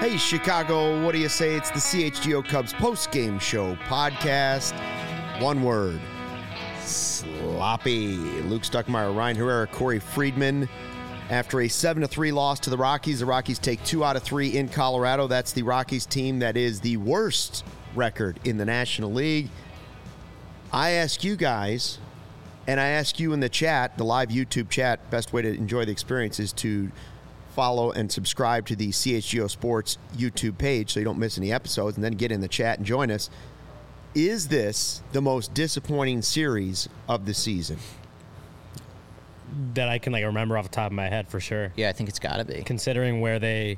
Hey, Chicago, what do you say? It's the CHGO Cubs post-game show podcast. One word, sloppy. Luke Stuckmeyer, Ryan Herrera, Corey Friedman. After a 7-3 loss to the Rockies take 2 out of 3 in Colorado. That's the Rockies team that is the worst record in the National League. I ask you guys, and I ask you in the chat, the live YouTube chat, best way to enjoy the experience is to follow and subscribe to the CHGO Sports YouTube page so you don't miss any episodes, and then get in the chat and join us. Is this the most disappointing series of the season? That I can remember off the top of my head for sure. Yeah, I think it's got to be. Considering where they're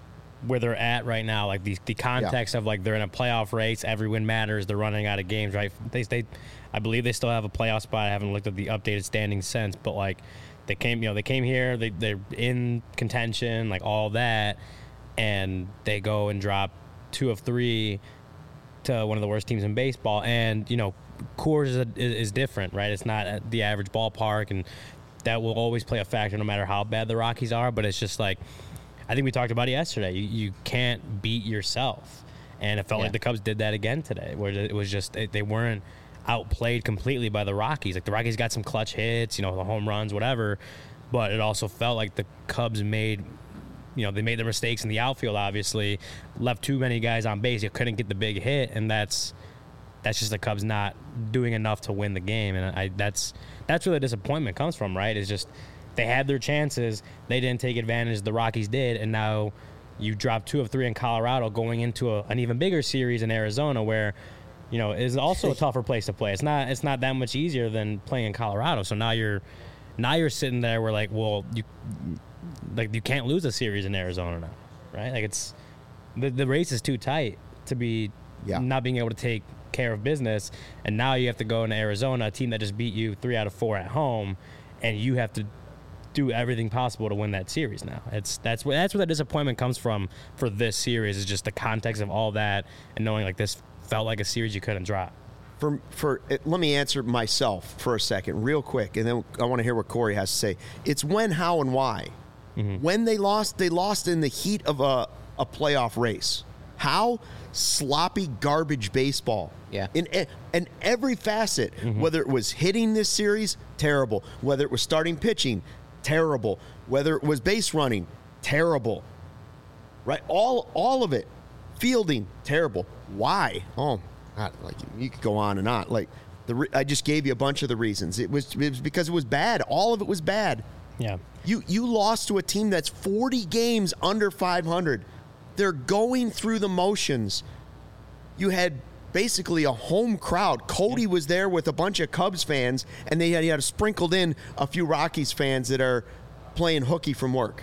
at right now, the context of they're in a playoff race, every win matters, they're running out of games, right? I believe they still have a playoff spot. I haven't looked at the updated standings since, but they came here, they're in contention, all that, and they go and drop 2 of 3 to one of the worst teams in baseball. And Coors is different, right? It's not at the average ballpark, and that will always play a factor no matter how bad the Rockies are. But it's just I think we talked about it yesterday. You can't beat yourself, and it felt like the Cubs did that again today, where it was just they weren't outplayed completely by the Rockies. The Rockies got some clutch hits, the home runs, whatever, but it also felt like the Cubs made, they made their mistakes in the outfield, obviously, left too many guys on base. You couldn't get the big hit, and that's just the Cubs not doing enough to win the game. And that's where the disappointment comes from, right? It's just they had their chances, they didn't take advantage, the Rockies did, and now you drop 2 of 3 in Colorado going into an even bigger series in Arizona where is also a tougher place to play. It's not that much easier than playing in Colorado. So now you're sitting there where you can't lose a series in Arizona now, right? It's the race is too tight to be not being able to take care of business, and now you have to go into Arizona, a team that just beat you 3 out of 4 at home, and you have to do everything possible to win that series now. That's where the disappointment comes from for this series, is just the context of all that and knowing this felt like a series you couldn't drop. Let me answer myself for a second, real quick, and then I want to hear what Corey has to say. It's when, how, and why. Mm-hmm. When they lost in the heat of a playoff race. How? Sloppy garbage baseball. Yeah. In every facet, whether it was hitting this series, terrible. Whether it was starting pitching, terrible. Whether it was base running, terrible. Right? All of it. Fielding, terrible. Why? Oh, God, you could go on and on. I just gave you a bunch of the reasons. It was because it was bad. All of it was bad. Yeah. You lost to a team that's 40 games under 500. They're going through the motions. You had basically a home crowd. Cody was there with a bunch of Cubs fans, and they had sprinkled in a few Rockies fans that are playing hooky from work.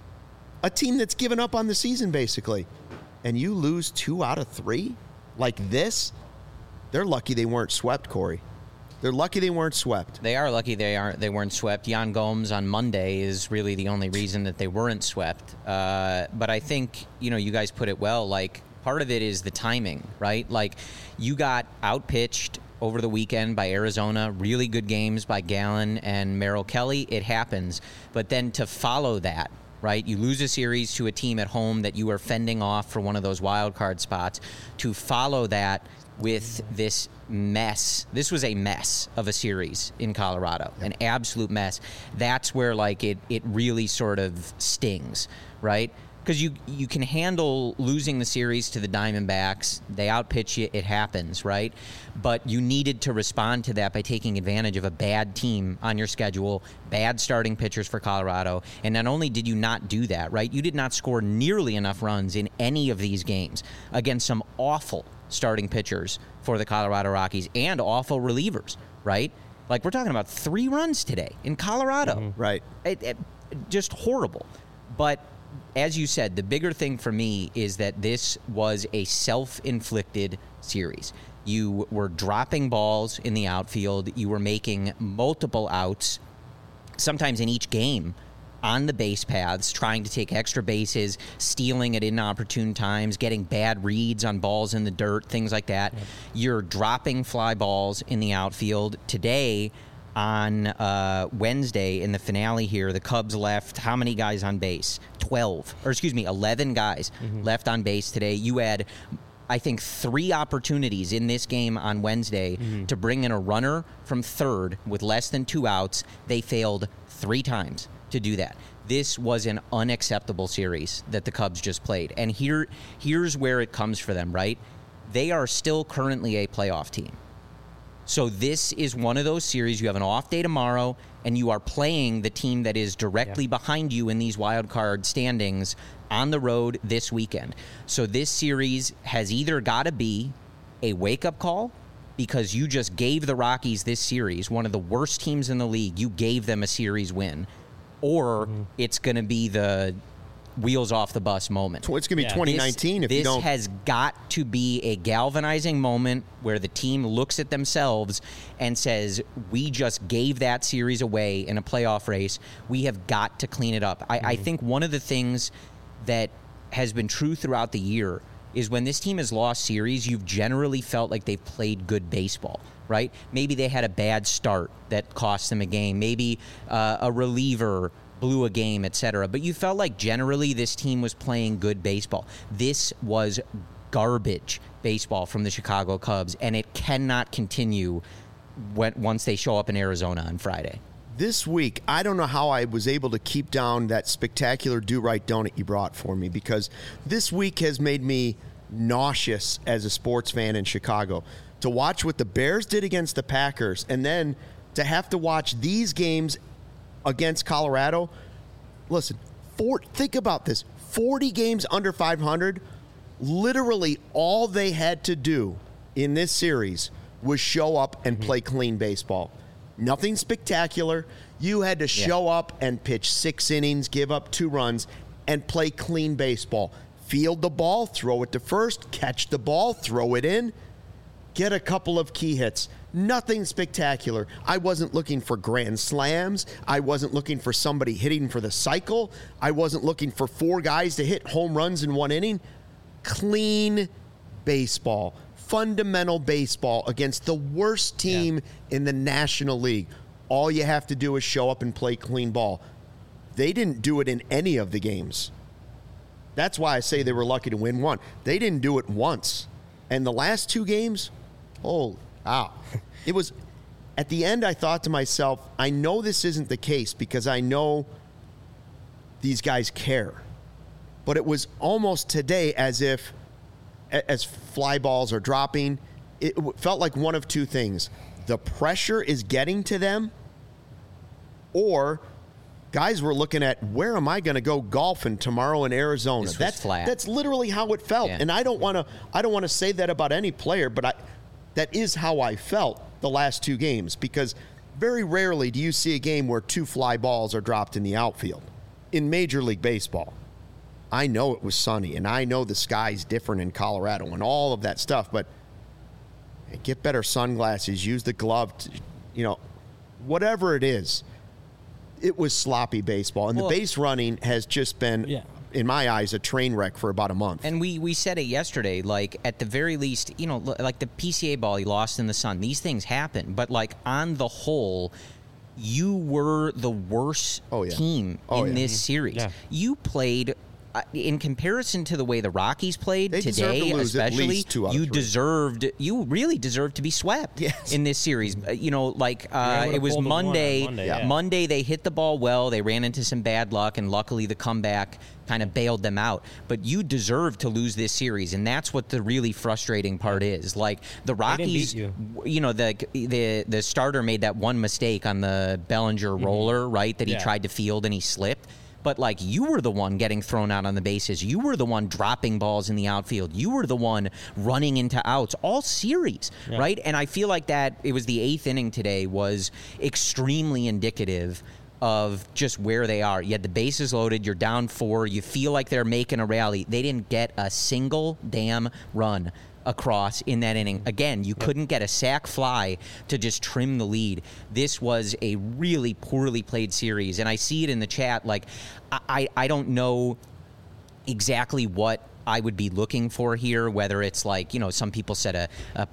A team that's given up on the season, basically. And you lose 2 out of 3 like this? They're lucky they weren't swept, Corey. They're lucky they weren't swept. They are lucky they weren't swept. Yan Gomes on Monday is really the only reason that they weren't swept. But I think, you guys put it well. Part of it is the timing, right? You got outpitched over the weekend by Arizona. Really good games by Gallen and Merrill Kelly. It happens. But then to follow that, right? You lose a series to a team at home that you are fending off for one of those wild card spots. To follow that with this mess. This was a mess of a series in Colorado, an absolute mess. That's where it really sort of stings, right? Because you can handle losing the series to the Diamondbacks. They outpitch you. It happens, right? But you needed to respond to that by taking advantage of a bad team on your schedule, bad starting pitchers for Colorado. And not only did you not do that, right? You did not score nearly enough runs in any of these games against some awful starting pitchers for the Colorado Rockies and awful relievers, right? We're talking about 3 runs today in Colorado. Mm-hmm. Right. Just horrible. But as you said, the bigger thing for me is that this was a self-inflicted series. You were dropping balls in the outfield. You were making multiple outs, sometimes in each game, on the base paths, trying to take extra bases, stealing at inopportune times, getting bad reads on balls in the dirt, things like that. Yep. You're dropping fly balls in the outfield. Today, on Wednesday in the finale here, the Cubs left how many guys on base? 11 guys left on base today. You had, I think, 3 opportunities in this game on Wednesday to bring in a runner from third with less than 2 outs. They failed 3 times to do that. This was an unacceptable series that the Cubs just played. And here's where it comes for them, right? They are still currently a playoff team. So this is one of those series. You have an off day tomorrow, and you are playing the team that is directly behind you in these wild card standings on the road this weekend. So this series has either got to be a wake-up call, because you just gave the Rockies this series, one of the worst teams in the league. You gave them a series win. Or it's going to be the wheels off the bus moment. So it's going to be 2019 if you don't. This has got to be a galvanizing moment where the team looks at themselves and says, we just gave that series away in a playoff race. We have got to clean it up. I think one of the things that has been true throughout the year is when this team has lost series, you've generally felt like they've played good baseball, right? Maybe they had a bad start that cost them a game. Maybe a reliever blew a game, etc. But you felt like generally this team was playing good baseball. This was garbage baseball from the Chicago Cubs, and it cannot continue once they show up in Arizona on Friday. This week, I don't know how I was able to keep down that spectacular do-right donut you brought for me, because this week has made me nauseous as a sports fan in Chicago. To watch what the Bears did against the Packers, and then to have to watch these games against Colorado. Listen, think about this. 40 games under 500, literally all they had to do in this series was show up and play clean baseball. Nothing spectacular. You had to show up and pitch 6 innings, give up 2 runs, and play clean baseball. Field the ball, throw it to first, catch the ball, throw it in, get a couple of key hits. Nothing spectacular. I wasn't looking for grand slams. I wasn't looking for somebody hitting for the cycle. I wasn't looking for 4 guys to hit home runs in 1 inning. Clean baseball. Fundamental baseball against the worst team in the National League. All you have to do is show up and play clean ball. They didn't do it in any of the games. That's why I say they were lucky to win 1. They didn't do it once. And the last 2 games, wow. It was, at the end, I thought to myself, I know this isn't the case because I know these guys care. But it was almost today as if, as fly balls are dropping, it felt like one of 2 things. The pressure is getting to them, or guys were looking at, where am I going to go golfing tomorrow in Arizona? That's flat. That's literally how it felt. And I don't want to say that about any player, but that is how I felt the last 2 games, because very rarely do you see a game where 2 fly balls are dropped in the outfield in Major League Baseball. I know it was sunny, and I know the sky's different in Colorado and all of that stuff, but get better sunglasses, use the glove, whatever it is. It was sloppy baseball, and the base running has just been, in my eyes, a train wreck for about a month. And we said it yesterday, like, at the very least, like the PCA ball he lost in the sun, these things happen, but, like, on the whole, you were the worst team in this series. Yeah. You played, in comparison to the way the Rockies played today, especially, you really deserved to be swept in this series. It was Monday. Monday they hit the ball well. They ran into some bad luck, and luckily the comeback kind of bailed them out. But you deserve to lose this series, and that's what the really frustrating part is. Like, the Rockies, the starter made that one mistake on the Bellinger roller, right, that he tried to field and he slipped. But, like, you were the one getting thrown out on the bases. You were the one dropping balls in the outfield. You were the one running into outs all series, right? And I feel like that it was the 8th inning today was extremely indicative of just where they are. You had the bases loaded. You're down 4. You feel like they're making a rally. They didn't get a single damn run across in that inning. Again, you couldn't get a sac fly to just trim the lead. This was a really poorly played series, and I see it in the chat. Like, I don't know exactly what I would be looking for here, whether it's like, some people said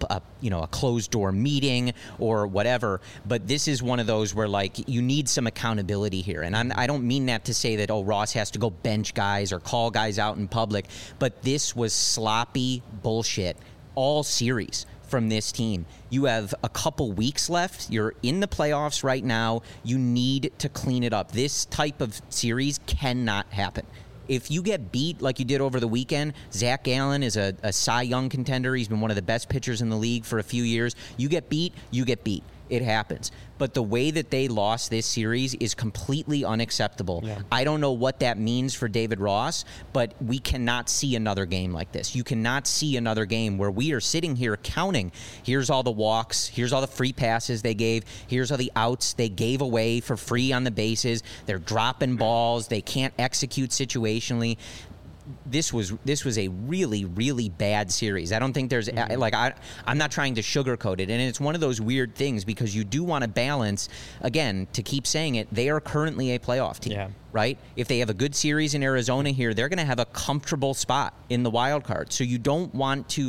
a closed door meeting or whatever, but this is one of those where like you need some accountability here. And I don't mean that to say that, Ross has to go bench guys or call guys out in public, but this was sloppy bullshit all series from this team. You have a couple weeks left. You're in the playoffs right now. You need to clean it up. This type of series cannot happen. If you get beat like you did over the weekend, Zach Gallen is a Cy Young contender. He's been one of the best pitchers in the league for a few years. You get beat, you get beat. It happens. But the way that they lost this series is completely unacceptable. Yeah. I don't know what that means for David Ross, but we cannot see another game like this. You cannot see another game where we are sitting here counting. Here's all the walks. Here's all the free passes they gave. Here's all the outs they gave away for free on the bases. They're dropping balls. They can't execute situationally. This was a really, really bad series. I don't think there's I'm not trying to sugarcoat it, and it's one of those weird things because you do want to balance. Again, to keep saying it, they are currently a playoff team, right? If they have a good series in Arizona here, they're going to have a comfortable spot in the wild card. So you don't want to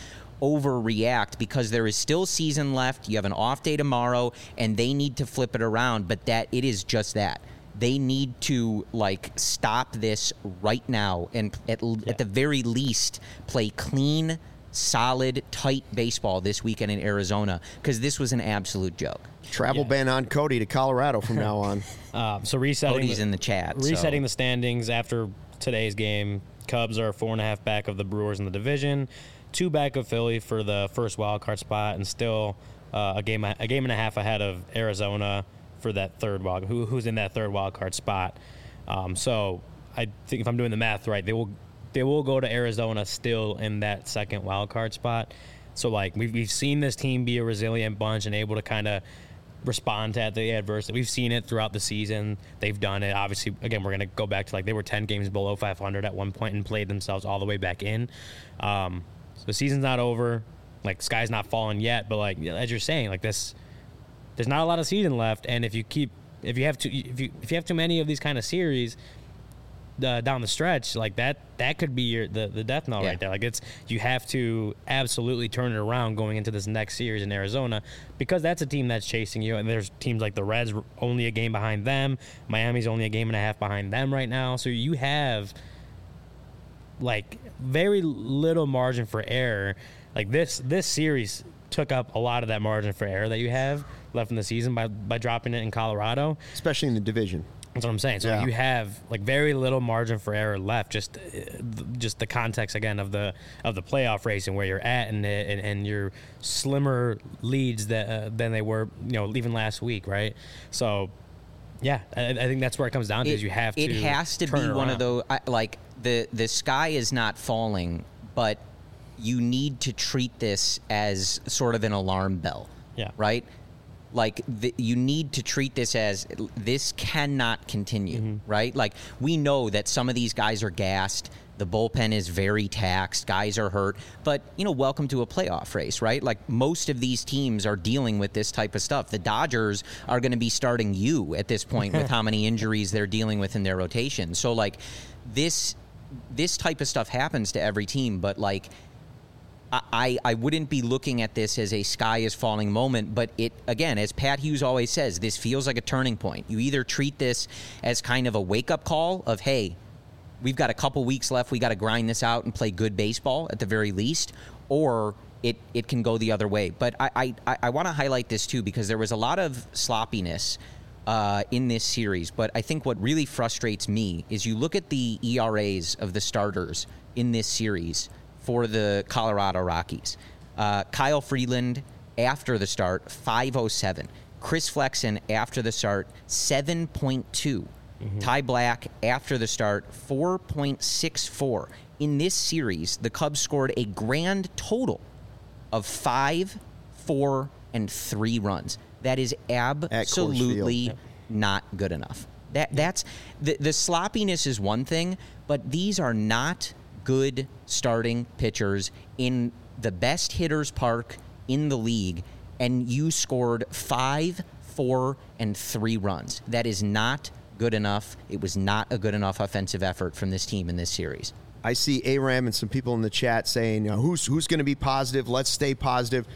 overreact because there is still season left. You have an off day tomorrow, and they need to flip it around. But it is just that. They need to stop this right now and at the very least play clean, solid, tight baseball this weekend in Arizona because this was an absolute joke. Travel ban on Cody to Colorado from now on. So resetting Cody's in the chat. Resetting the standings after today's game. Cubs are 4.5 back of the Brewers in the division, 2 back of Philly for the first wild card spot, and still a game and a half ahead of Arizona for that third who's in that third wild card spot. So I think if I'm doing the math right, they will go to Arizona still in that second wild card spot. So we've seen this team be a resilient bunch and able to kind of respond to the adversity. We've seen it throughout the season. They've done it. Obviously, again, we're going to go back to they were 10 games below 500 at one point and played themselves all the way back in. So the season's not over. Sky's not falling yet, but as you're saying, this. There's not a lot of season left, and if you have too many of these kind of series down the stretch, that could be the death knell right there. You have to absolutely turn it around going into this next series in Arizona because that's a team that's chasing you, and there's teams like the Reds only a game behind them, Miami's only a game and a half behind them right now, so you have very little margin for error. This series took up a lot of that margin for error that you have left in the season by dropping it in Colorado, especially in the division. That's what I'm saying. So you have very little margin for error left. Just the context again of the playoff race and where you're at and your slimmer leads than they were even last week, right? So I think that's where it comes down to is you have to. It has to be one of those the sky is not falling, but you need to treat this as sort of an alarm bell. Yeah. Right? You need to treat this as this cannot continue, right? We know that some of these guys are gassed. The bullpen is very taxed. Guys are hurt. But, welcome to a playoff race, right? Most of these teams are dealing with this type of stuff. The Dodgers are going to be starting you at this point with how many injuries they're dealing with in their rotation. So, this type of stuff happens to every team, but, I wouldn't be looking at this as a sky is falling moment, but it, again, as Pat Hughes always says, this feels like a turning point. You either treat this as kind of a wake-up call of, hey, we've got a couple weeks left, we got to grind this out and play good baseball at the very least, or it can go the other way. But I want to highlight this too because there was a lot of sloppiness in this series, but I think what really frustrates me is you look at the ERAs of the starters in this series for the Colorado Rockies. Kyle Freeland, after the start, 5.07. Chris Flexen, after the start, 7.2. Ty Black, after the start, 4.64. In this series, the Cubs scored a grand total of 5, 4, and 3 runs. That is absolutely not good enough. That's the sloppiness is one thing, but these are not good starting pitchers in the best hitters park in the league, and you scored 5, 4, and 3 runs. That is not good enough. It was not a good enough offensive effort from this team in this series. I see Aram and some people in the chat saying, who's going to be positive? Let's stay positive.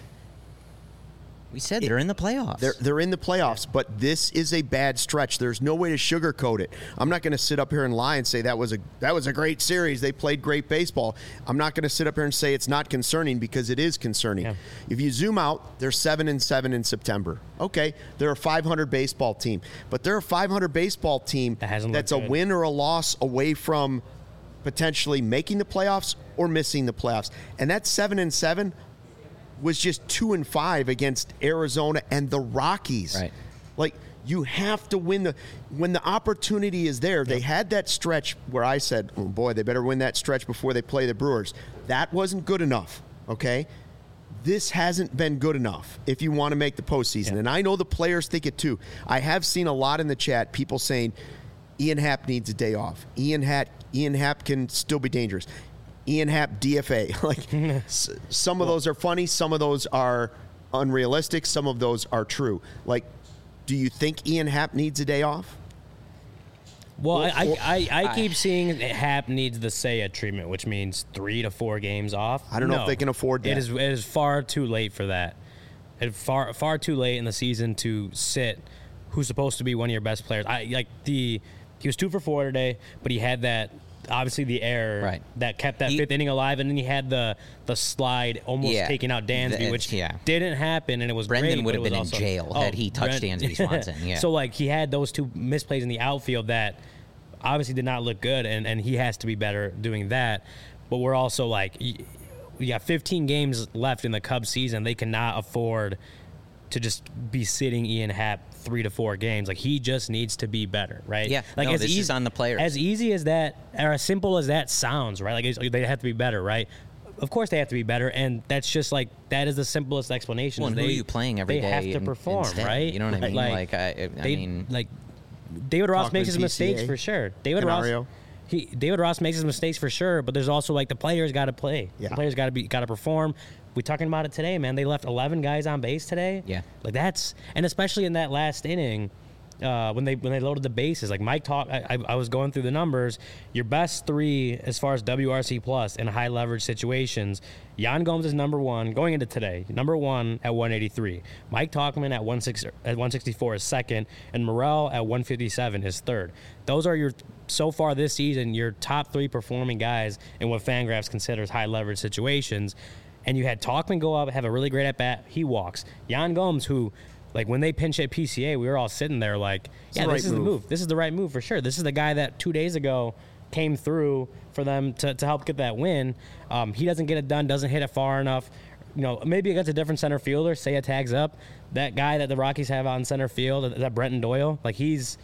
We said they're in the playoffs. They're in the playoffs, but this is a bad stretch. There's no way to sugarcoat it. I'm not going to sit up here and lie and say that was a great series. They played great baseball. I'm not going to sit up here and say it's not concerning, because it is concerning. Yeah. If you zoom out, they're 7-7 in September. Okay, they're a 500 baseball team, but they're a 500 baseball team that's a win or a loss away from potentially making the playoffs or missing the playoffs. And that 7-7 was just 2-5 against Arizona and the Rockies. Right. Like, you have to win when the opportunity is there. They had that stretch where I said, oh boy, they better win that stretch before they play the Brewers. That wasn't good enough, okay? This hasn't been good enough if you want to make the postseason. Yeah. And I know the players think it too. I have seen a lot in the chat, people saying Ian Happ needs a day off. Ian Happ can still be dangerous. Ian Happ DFA. Like, some of those are funny, some of those are unrealistic, some of those are true. Like, do you think Ian Happ needs a day off? Well, I keep seeing Happ needs the Seiya treatment, which means 3 to 4 games off. I don't know if they can afford that. It is far too late for that. It's far too late in the season to sit who's supposed to be one of your best players. He was 2 for 4 today, but he had that. Obviously, the error that kept that fifth inning alive, and then he had the slide almost taking out Dansby, which didn't happen, and it was Brendan great, would have been in jail had he touched Dansby Swanson. Yeah. So, he had those 2 misplays in the outfield that obviously did not look good, and he has to be better doing that. But we're also we got 15 games left in the Cubs season. They cannot afford to just be sitting Ian Happ 3 to 4 games. He just needs to be better, right? Yeah. This is on the players. As easy as that, or as simple as that sounds, right? They have to be better, right? Of course they have to be better, and that's just that is the simplest explanation. Well, and who are you playing every day? They have to perform, instead, right? You know what I mean? David Ross makes his mistakes for sure. David Ross makes his mistakes for sure, but there's also the players got to play. Yeah. The players got to perform. We're talking about it today, man. They left 11 guys on base today. Yeah. And especially in that last inning, when they loaded the bases, Mike talked, I was going through the numbers. Your best 3 as far as WRC plus in high leverage situations, Yan Gomes is number 1 going into today. Number 1 at 183. Mike Tauchman at 164 is second, and Morel at 157 is third. Those are so far this season, your top 3 performing guys in what Fangraphs considers high leverage situations. And you had Tauchman go up, have a really great at-bat. He walks. Yan Gomes, who, when they pinch at PCA, we were all sitting there this is the move. This is the right move for sure. This is the guy that 2 days ago came through for them to help get that win. He doesn't get it done, doesn't hit it far enough. Maybe against a different center fielder, Seiya tags up. That guy that the Rockies have on center field, that Brenton Doyle, he's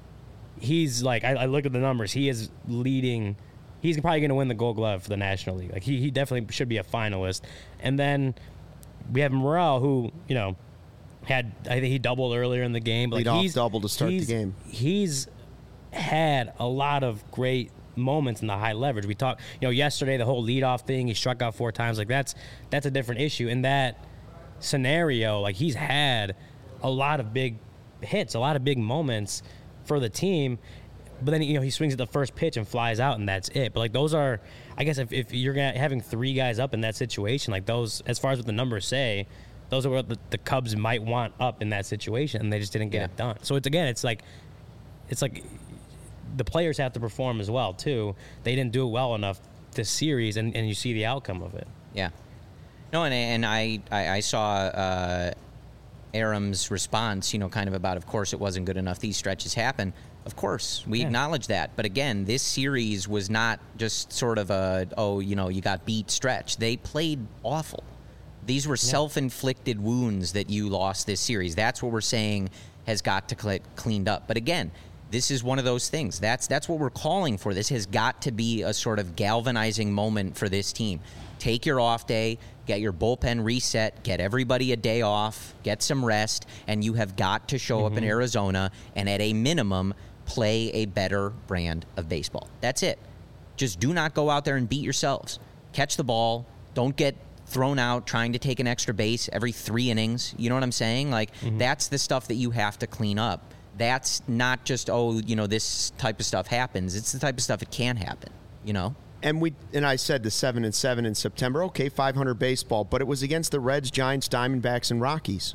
I look at the numbers. He is leading. He's probably going to win the Gold Glove for the National League. He definitely should be a finalist. And then we have Morel, who, I think he doubled earlier in the game. Lead-off double to start the game. He's had a lot of great moments in the high leverage. We talked, yesterday, the whole leadoff thing, he struck out 4 times. That's a different issue. In that scenario, he's had a lot of big hits, a lot of big moments for the team. But then, he swings at the first pitch and flies out, and that's it. But, those are, I guess, if you're having 3 guys up in that situation, those, as far as what the numbers say, those are what the Cubs might want up in that situation, and they just didn't get it done. So, it's the players have to perform as well, too. They didn't do it well enough this series, and you see the outcome of it. Yeah. No, and I saw Aram's response, kind of about, of course, it wasn't good enough. These stretches happen. Of course, we acknowledge that. But again, this series was not just sort of you got beat stretch. They played awful. These were self-inflicted wounds that you lost this series. That's what we're saying has got to get cleaned up. But again, this is one of those things. That's what we're calling for. This has got to be a sort of galvanizing moment for this team. Take your off day, get your bullpen reset, get everybody a day off, get some rest, and you have got to show up in Arizona and at a minimum play a better brand of baseball. That's it. Just do not go out there and beat yourselves. Catch the ball. Don't get thrown out trying to take an extra base every 3 innings. You know what I'm saying? That's the stuff that you have to clean up. That's not just, this type of stuff happens. It's the type of stuff that can happen, And I said the 7-7 in September. Okay, 500 baseball, but it was against the Reds, Giants, Diamondbacks, and Rockies.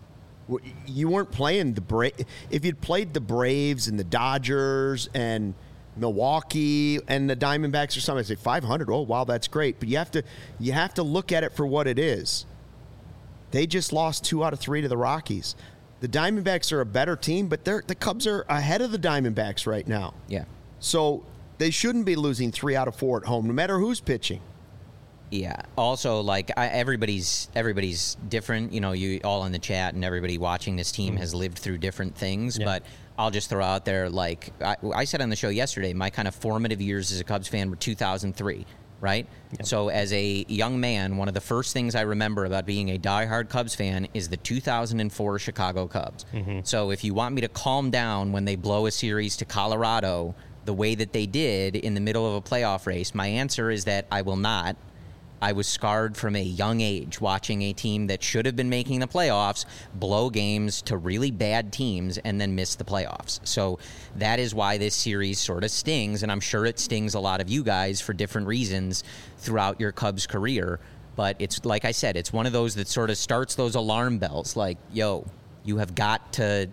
You weren't playing the if you'd played the Braves and the Dodgers and Milwaukee and the Diamondbacks or something, I'd say 500. Oh wow, that's great. But you have to look at it for what it is. They just lost 2 out of 3 to the Rockies. The Diamondbacks are a better team, but the Cubs are ahead of the Diamondbacks right now. Yeah. So they shouldn't be losing 3 out of 4 at home, no matter who's pitching. Yeah. Also, like everybody's different. You know, you all in the chat and everybody watching this team has lived through different things. Yeah. But I'll just throw out there, like I said on the show yesterday, my kind of formative years as a Cubs fan were 2003. Right? Yep. So as a young man, one of the first things I remember about being a diehard Cubs fan is the 2004 Chicago Cubs. Mm-hmm. So if you want me to calm down when they blow a series to Colorado the way that they did in the middle of a playoff race, my answer is that I will not. I was scarred from a young age watching a team that should have been making the playoffs blow games to really bad teams and then miss the playoffs. So that is why this series sort of stings, and I'm sure it stings a lot of you guys for different reasons throughout your Cubs career. But it's, like I said, it's one of those that sort of starts those alarm bells like, yo, you have got to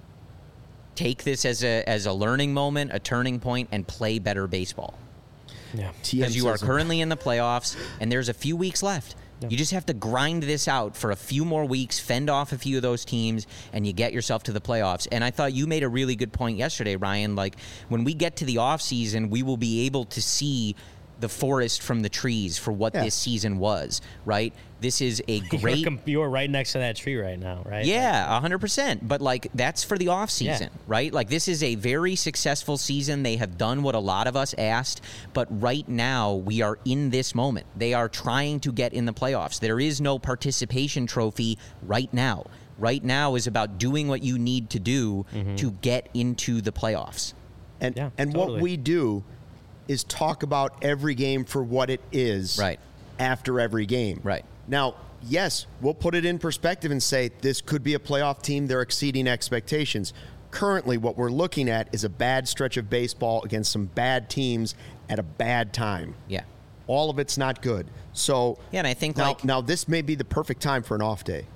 take this as a learning moment, a turning point, and play better baseball. Yeah, because you are currently in the playoffs, and there's a few weeks left. Yeah. You just have to grind this out for a few more weeks, fend off a few of those teams, and you get yourself to the playoffs. And I thought you made a really good point yesterday, Ryan. Like, when we get to the offseason, we will be able to see the forest from the trees for what this season was, right? This is a great... You're right next to that tree right now, right? Yeah, 100%. But, like, that's for the offseason, right? Like, this is a very successful season. They have done what a lot of us asked. But right now, we are in this moment. They are trying to get in the playoffs. There is no participation trophy right now. Right now is about doing what you need to do to get into the playoffs. And what we do is talk about every game for what it is after every game. Right. Now, yes, we'll put it in perspective and say this could be a playoff team. They're exceeding expectations. Currently, what we're looking at is a bad stretch of baseball against some bad teams at a bad time. Yeah. All of it's not good. So and I think now this may be the perfect time for an off day.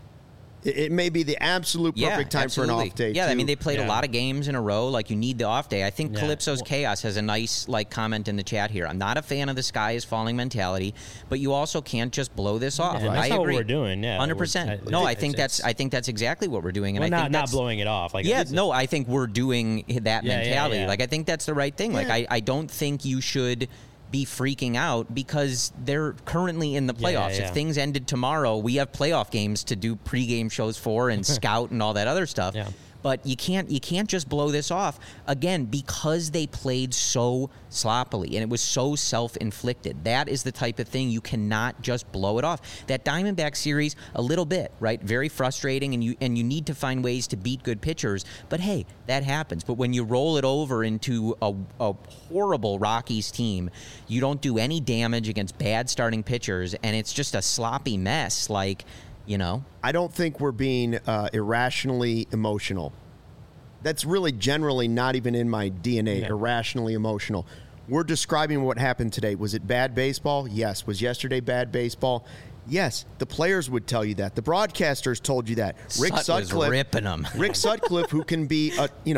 It may be the absolute perfect time for an off day. Yeah, too. I mean, they played a lot of games in a row. Like, you need the off day. I think Calypso's Chaos has a nice comment in the chat here. I'm not a fan of the sky is falling mentality, but you also can't just blow this off. Yeah, that's I agree. What we're doing. Yeah, 100%. No, I think that's exactly what we're doing. And I think not blowing it off. Like, I think we're doing that mentality. Like, I think that's the right thing. Like, I don't think you should be freaking out because they're currently in the playoffs. If things ended tomorrow, we have playoff games to do pregame shows for and scout and all that other stuff. Yeah. But you can't just blow this off again because they played so sloppily and it was so self-inflicted. That is the type of thing you cannot just blow it off. That Diamondback series, a little bit, right? Very frustrating, and you need to find ways to beat good pitchers. But hey, that happens. But when you roll it over into a horrible Rockies team, you don't do any damage against bad starting pitchers, and it's just a sloppy mess. Like, you know, I don't think we're being irrationally emotional. That's really generally not even in my DNA, irrationally emotional. We're describing what happened today. Was it bad baseball? Yes. Was yesterday bad baseball? Yes. The players would tell you that. The broadcasters told you that. Rick Sutcliffe was ripping them. Rick Sutcliffe, who can be,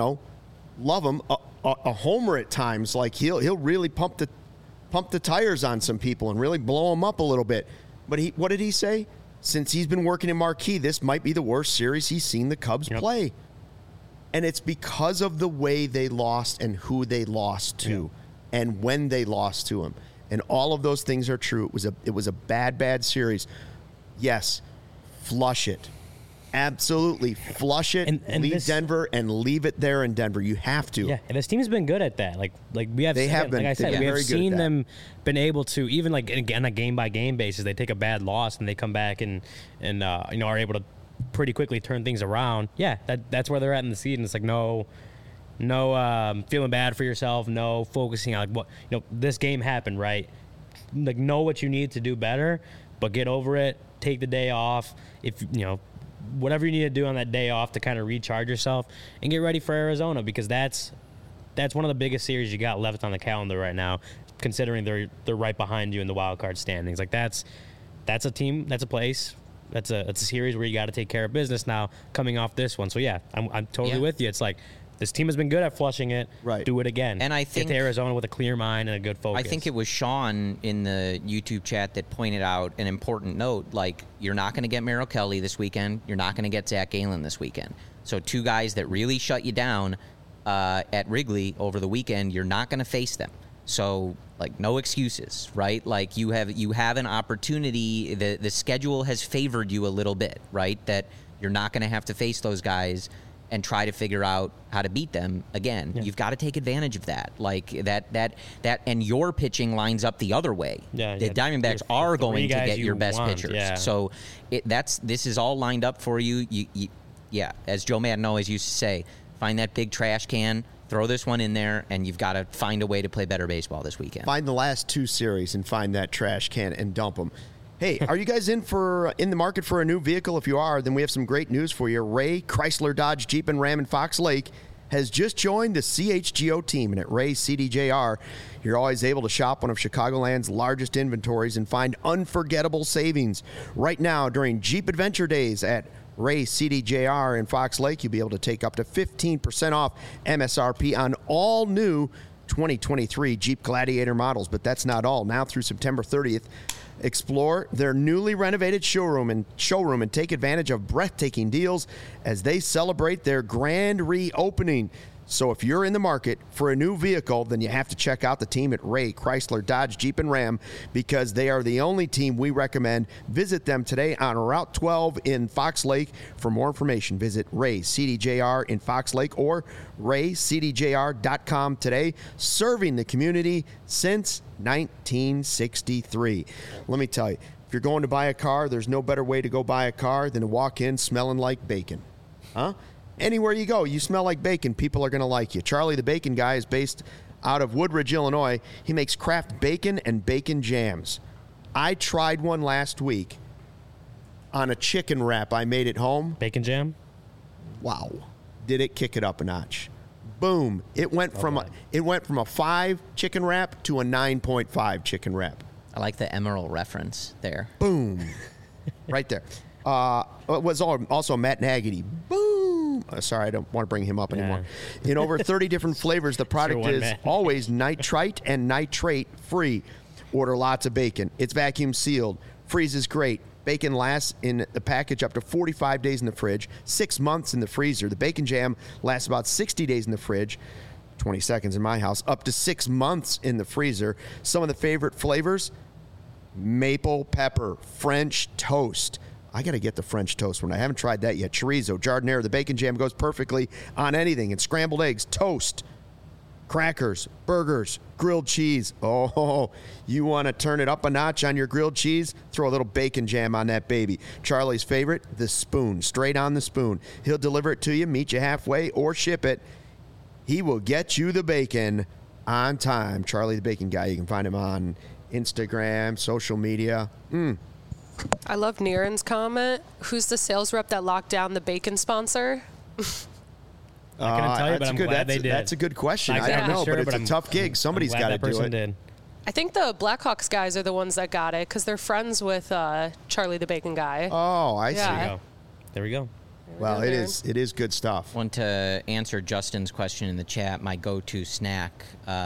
love him, a homer at times. Like, he'll really pump the tires on some people and really blow them up a little bit. But what did he say? Since he's been working in Marquee, this might be the worst series he's seen the Cubs play. And it's because of the way they lost and who they lost to and when they lost to him. And all of those things are true. It was a bad series. Yes, flush it. Absolutely. Flush it, and leave Denver, and leave it there in Denver. You have to. Yeah, and this team's been good at that. Like we have. They have been. Like I said, we have seen them been able to, even like on a game-by-game basis, they take a bad loss and they come back and are able to pretty quickly turn things around. Yeah, that's where they're at in the season. It's like no feeling bad for yourself, no focusing on like what this game happened, right? Like, know what you need to do better, but get over it. Take the day off. If whatever you need to do on that day off to kind of recharge yourself and get ready for Arizona, because that's one of the biggest series you got left on the calendar right now. considering they're right behind you in the wild card standings. Like that's a team, that's a place, that's a series where you got to take care of business now coming off this one. So yeah, I'm totally with you. It's like this team has been good at flushing it. Right. Do it again. And I think get to Arizona with a clear mind and a good focus. I think it was Sean in the YouTube chat that pointed out an important note. Like, you're not going to get Merrill Kelly this weekend. You're not going to get Zach Gallen this weekend. So two guys that really shut you down at Wrigley over the weekend, you're not going to face them. So, like, no excuses, right? Like, you have an opportunity. The schedule has favored you a little bit, right? That you're not going to have to face those guys and try to figure out how to beat them again. Yeah. You've got to take advantage of that. Like that, and your pitching lines up the other way. Yeah, the Diamondbacks are going to get your best pitchers. Yeah. So this is all lined up for you. Yeah, as Joe Madden always used to say, find that big trash can, throw this one in there, and you've got to find a way to play better baseball this weekend. Find the last two series and find that trash can and dump them. Hey, are you guys in the market for a new vehicle? If you are, then we have some great news for you. Ray Chrysler Dodge Jeep and Ram in Fox Lake has just joined the CHGO team, and at Ray CDJR, you're always able to shop one of Chicagoland's largest inventories and find unforgettable savings. Right now, during Jeep Adventure Days at Ray CDJR in Fox Lake, you'll be able to take up to 15% off MSRP on all new 2023 Jeep Gladiator models. But that's not all. Now through September 30th, explore their newly renovated showroom and take advantage of breathtaking deals as they celebrate their grand reopening. So if you're in the market for a new vehicle, then you have to check out the team at Ray Chrysler Dodge Jeep and Ram, because they are the only team we recommend. Visit them today on Route 12 in Fox Lake. For more information, visit Ray CDJR in Fox Lake or raycdjr.com today. Serving the community since 1963. Let me tell you, if you're going to buy a car, there's no better way to go buy a car than to walk in smelling like bacon. Huh? Anywhere you go, you smell like bacon, people are going to like you. Charlie the Bacon Guy is based out of Woodridge, Illinois. He makes craft bacon and bacon jams. I tried one last week on a chicken wrap I made at home. Bacon jam? Wow. Did it kick it up a notch. Boom. It went from a 5 chicken wrap to a 9.5 chicken wrap. I like the Emerald reference there. Boom. Right there. It was also Matt Nagy. Boom. Sorry, I don't want to bring him up anymore. In over 30 different flavors, the product is always nitrite and nitrate free. Order lots of bacon. It's vacuum sealed. Freezes great. Bacon lasts in the package up to 45 days in the fridge, 6 months in the freezer. The bacon jam lasts about 60 days in the fridge, 20 seconds in my house, up to 6 months in the freezer. Some of the favorite flavors: maple pepper, French toast. I got to get the French toast one. I haven't tried that yet. Chorizo, giardiniera. The bacon jam goes perfectly on anything. And scrambled eggs, toast, crackers, burgers, grilled cheese. Oh, you want to turn it up a notch on your grilled cheese? Throw a little bacon jam on that baby. Charlie's favorite, the spoon. Straight on the spoon. He'll deliver it to you, meet you halfway, or ship it. He will get you the bacon on time. Charlie the Bacon Guy. You can find him on Instagram, social media. I love Niren's comment. Who's the sales rep that locked down the bacon sponsor? I couldn't tell you, but I'm glad they did. That's a good question. I don't know, but it's a tough gig. Somebody's got to do it. Did. I think the Blackhawks guys are the ones that got it because they're friends with Charlie the Bacon Guy. Oh, I see. There we go. Well, it is good stuff. Want to answer Justin's question in the chat? My go-to snack,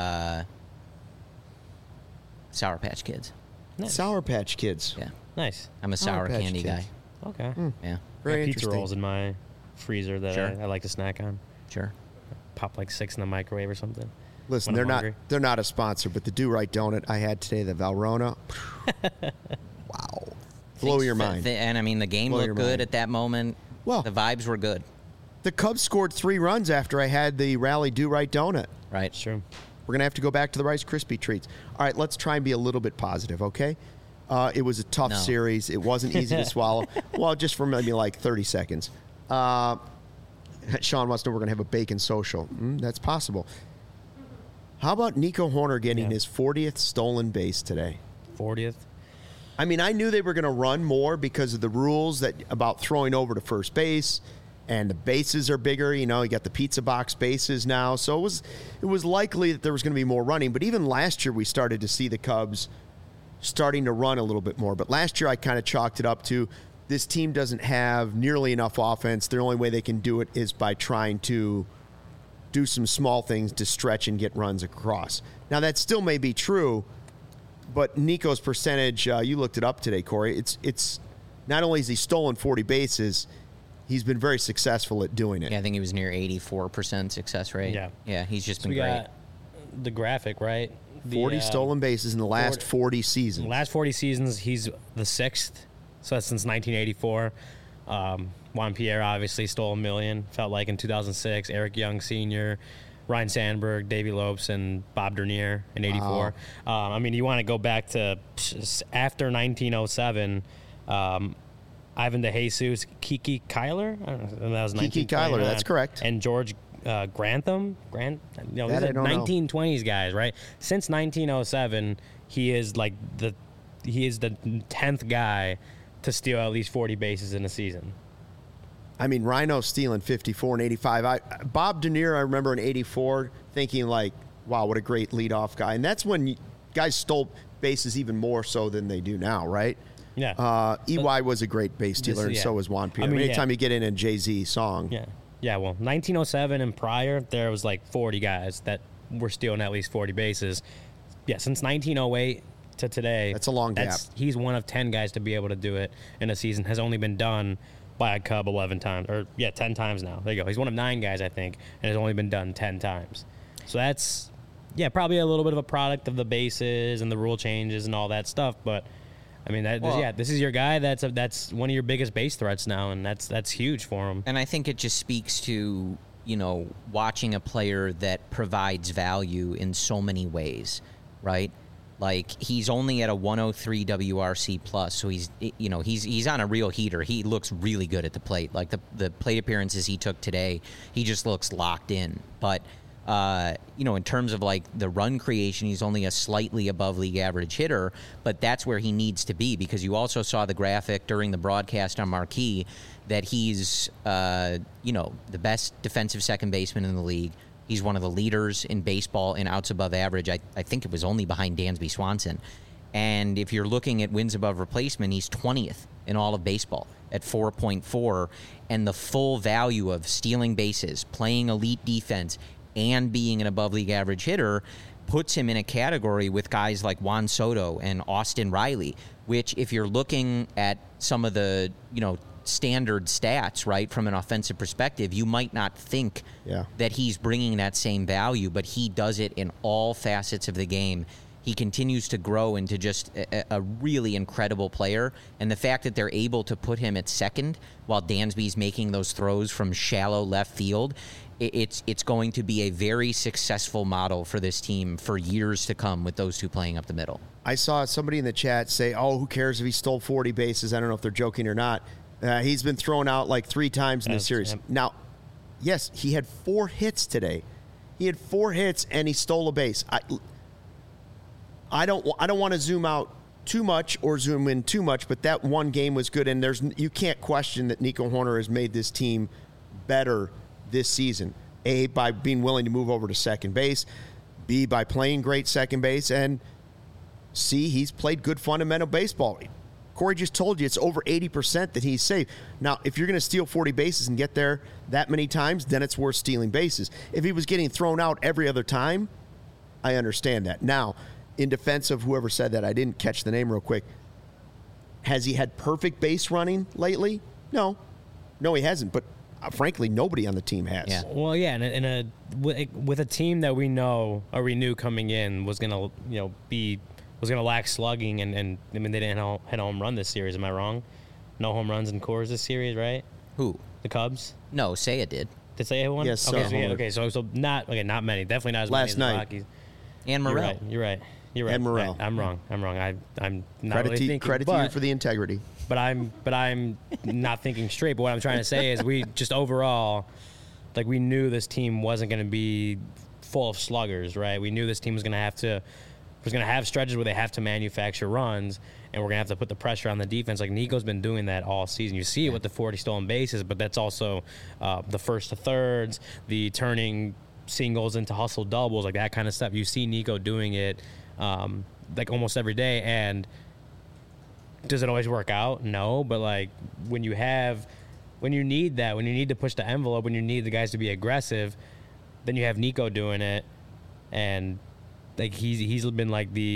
Sour Patch Kids. Nice. Sour Patch Kids. Yeah. Nice. I'm a sour candy guy. Okay. Yeah. Very pizza rolls in my freezer that Sure. I like to snack on. Sure. Pop like 6 in the microwave or something. Listen, they're not a sponsor, but the Do Right donut I had today, the Valrhona. Wow. Blow your mind. And I mean, the game looked good at that moment. Well, the vibes were good. The Cubs scored 3 runs after I had the Rally Do Right donut. Right. Sure. We're going to have to go back to the Rice Krispie treats. All right, let's try and be a little bit positive, okay? It was a tough series. It wasn't easy to swallow. Well, just for maybe like 30 seconds. Sean wants to know we're going to have a bacon social. That's possible. How about Nico Horner getting his 40th stolen base today? 40th? I mean, I knew they were going to run more because of the rules about throwing over to first base and the bases are bigger. You got the pizza box bases now. So it was likely that there was going to be more running. But even last year, we started to see the Cubs starting to run a little bit more. But last year, I kind of chalked it up to this team doesn't have nearly enough offense. The only way they can do it is by trying to do some small things to stretch and get runs across. Now, that still may be true, but Nico's percentage, you looked it up today, Corey. It's not only has he stolen 40 bases, he's been very successful at doing it. Yeah, I think he was near 84% success rate. Yeah, he's just been great. Got the graphic, right? 40 stolen bases in the last 40 seasons. In the last 40 seasons, he's the 6th. So that's since 1984. Juan Pierre obviously stole 1 million, felt like in 2006. Eric Young Sr., Ryan Sandberg, Davey Lopes, and Bob Dernier in 84. Wow. You want to go back to after 1907, Ivan DeJesus, Kiki Kyler? I don't know, that was Kiki Kyler, that's correct. And George Grantham. These are 1920s guys, right? Since 1907, he is the 10th guy to steal at least 40 bases in a season. Rhino stealing 54 and 85. Bob Dernier, I remember in 84 thinking wow, what a great leadoff guy. And that's when guys stole bases even more so than they do now, right? Yeah. EY was a great base stealer, and so was Juan Pierre. Anytime you get in a Jay-Z song. Yeah. Yeah, well, 1907 and prior, there was 40 guys that were stealing at least 40 bases. Yeah, since 1908 to today. That's a long gap. He's one of 10 guys to be able to do it in a season. Has only been done by a Cub 11 times. 10 times now. There you go. He's one of 9 guys, I think, and has only been done 10 times. So that's, probably a little bit of a product of the bases and the rule changes and all that stuff. But, this is your guy. That's one of your biggest base threats now, and that's huge for him. And I think it just speaks to, watching a player that provides value in so many ways, right? He's only at a 103 WRC plus, so he's on a real heater. He looks really good at the plate. The plate appearances he took today, he just looks locked in. But in terms of the run creation, he's only a slightly above league average hitter, but that's where he needs to be, because you also saw the graphic during the broadcast on Marquee that he's the best defensive second baseman in the league. He's one of the leaders in baseball in outs above average. I think it was only behind Dansby Swanson. And if you're looking at wins above replacement, he's 20th in all of baseball at 4.4. And the full value of stealing bases, playing elite defense, and being an above league average hitter puts him in a category with guys like Juan Soto and Austin Riley, which if you're looking at some of the, standard stats, right, from an offensive perspective, you might not think that he's bringing that same value, but he does it in all facets of the game. He continues to grow into just a really incredible player, and the fact that they're able to put him at second while Dansby's making those throws from shallow left field, it's going to be a very successful model for this team for years to come with those two playing up the middle. I saw somebody in the chat say, who cares if he stole 40 bases? I don't know if they're joking or not. He's been thrown out 3 times in the series. Yep. Now, yes, he had 4 hits today. He had 4 hits and he stole a base. I don't want to zoom out too much or zoom in too much, but that one game was good, and you can't question that Nico Hoerner has made this team better this season. A, by being willing to move over to second base. B, by playing great second base. And C, he's played good fundamental baseball. Corey just told you it's over 80% that he's safe. Now, if you're going to steal 40 bases and get there that many times, then it's worth stealing bases. If he was getting thrown out every other time, I understand that. Now, in defense of whoever said that, I didn't catch the name real quick. Has he had perfect base running lately? No, he hasn't. But frankly, nobody on the team has. Yeah. Well, yeah, and with a team that we know or we knew coming in was going to was going to lack slugging, and they didn't hit a home run this series. Am I wrong? No home runs in Coors this series, right? Who? The Cubs? No, Seiya did. Did Seiya hit one? Yes. Okay, so not many. Definitely not as many as the Rockies. And Morel. You're right. And Morel. I'm wrong. I'm not really thinking. Credit to you for the integrity. But I'm not thinking straight. But what I'm trying to say is we just overall, we knew this team wasn't going to be full of sluggers, right? We knew this team was going to have to who's going to have stretches where they have to manufacture runs, and we're going to have to put the pressure on the defense. Like Nico's been doing that all season. You see it with the 40 stolen bases, but that's also the first to thirds, the turning singles into hustle doubles, like that kind of stuff. You see Nico doing it like almost every day, and does it always work out? No, but like when you need that, when you need to push the envelope, when you need the guys to be aggressive, then you have Nico doing it, and like he's been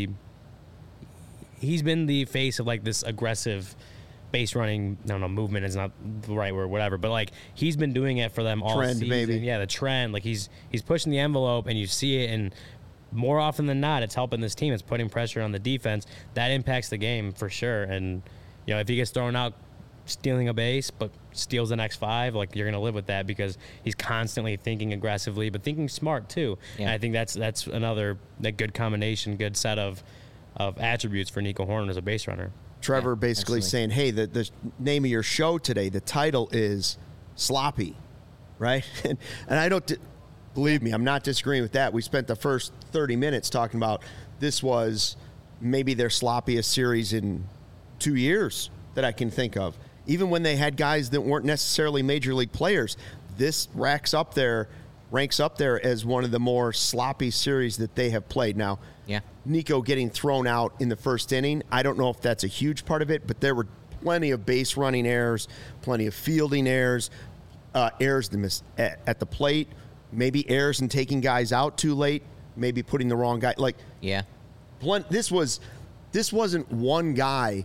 the face of like this aggressive base running. I don't know, movement is not the right word, whatever. But like he's been doing it for them all trend, season. maybe. Yeah, the trend. Like he's pushing the envelope, and you see it, and more often than not, it's helping this team. It's putting pressure on the defense. That impacts the game for sure. And you know, if he gets thrown out stealing a base, but steals the next 5, like you're gonna live with that because he's constantly thinking aggressively, but thinking smart too. Yeah. And I think that's another good combination, good set of attributes for Nico Horner as a base runner. Trevor Yeah, basically absolutely. saying, hey, the name of your show today, the title is Sloppy, right? and I don't, believe me, I'm not disagreeing with that. We spent the first 30 minutes talking about this was maybe their sloppiest series in 2 years that I can think of. Even when they had guys that weren't necessarily major league players, this ranks up there as one of the more sloppy series that they have played. Now, Yeah. Nico getting thrown out in the first inning, I don't know if that's a huge part of it, but there were plenty of base running errors, plenty of fielding errors, errors at the plate, maybe errors in taking guys out too late, maybe putting the wrong guy. Like, Yeah. this wasn't one guy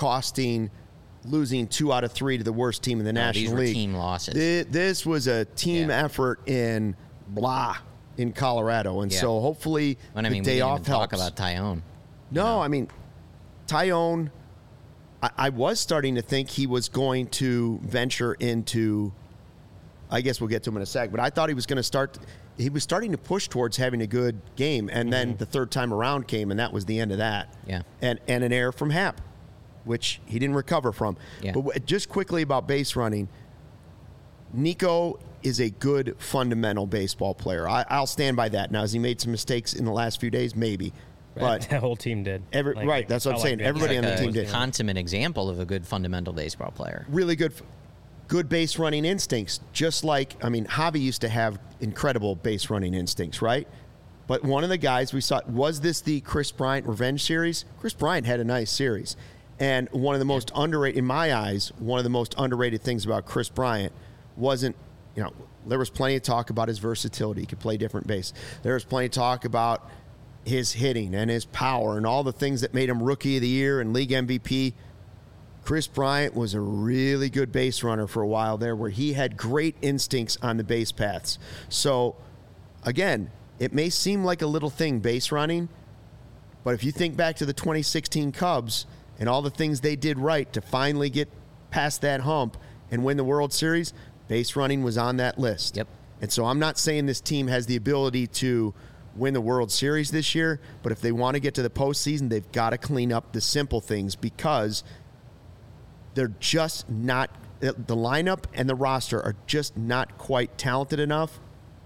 losing 2 out of 3 to the worst team in the National these were League. team losses. This was a team effort in Colorado, and Yeah. so hopefully And I mean, the we day didn't off even talk helps. about Tyone. No, I mean, Tyone, I was starting to think he was going to venture into, I guess we'll get to him in a sec, but I thought he was going to he was starting to push towards having a good game, and then the third time around came, and that was the end of that. Yeah. And an error from Happ, which he didn't recover from. Yeah. But just quickly about base running, Nico is a good fundamental baseball player. I'll stand by that. Now, has he made some mistakes in the last few days? Maybe. But the whole team did. Right, that's what I'm felt saying. they- Everybody on the Like team a did. consummate example of a good fundamental baseball player. Really good base running instincts. Just like, I mean, Javi used to have incredible base running instincts, right? But one of the guys we saw, was this the Chris Bryant revenge series? Chris Bryant had a nice series. And one of the most underrated, in my eyes, one of the most underrated things about Chris Bryant wasn't, there was plenty of talk about his versatility. He could play different base. There was plenty of talk about his hitting and his power and all the things that made him Rookie of the Year and League MVP. Chris Bryant was a really good base runner for a while there where he had great instincts on the base paths. So, again, it may seem like a little thing, base running, but if you think back to the 2016 Cubs and all the things they did right to finally get past that hump and win the World Series, base running was on that list. Yep. And so I'm not saying this team has the ability to win the World Series this year, but if they want to get to the postseason, they've got to clean up the simple things because they're just not, the lineup and the roster are just not quite talented enough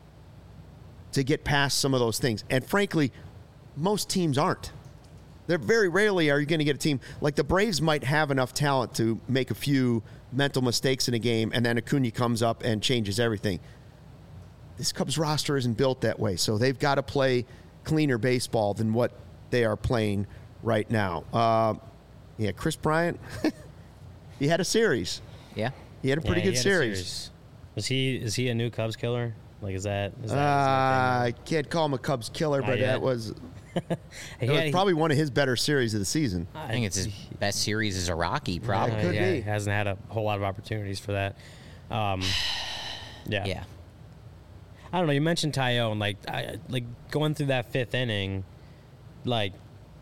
to get past some of those things. And frankly, most teams aren't. They're very rarely are you going to get a team like the Braves might have enough talent to make a few mental mistakes in a game, and then Acuna comes up and changes everything. This Cubs roster isn't built that way, so they've got to play cleaner baseball than what they are playing right now. Chris Bryant, he had a series. Yeah. He had a pretty good he had a series. Is he a new Cubs killer? Like, is that I can't call him a Cubs killer, but yet. that was, He that was had- probably one of his better series of the season. I think it's his best series as a Rocky, probably. could yeah, be. he hasn't had a whole lot of opportunities for that. Yeah. Yeah. I don't know. You mentioned Tyone, like going through that 5th inning, like,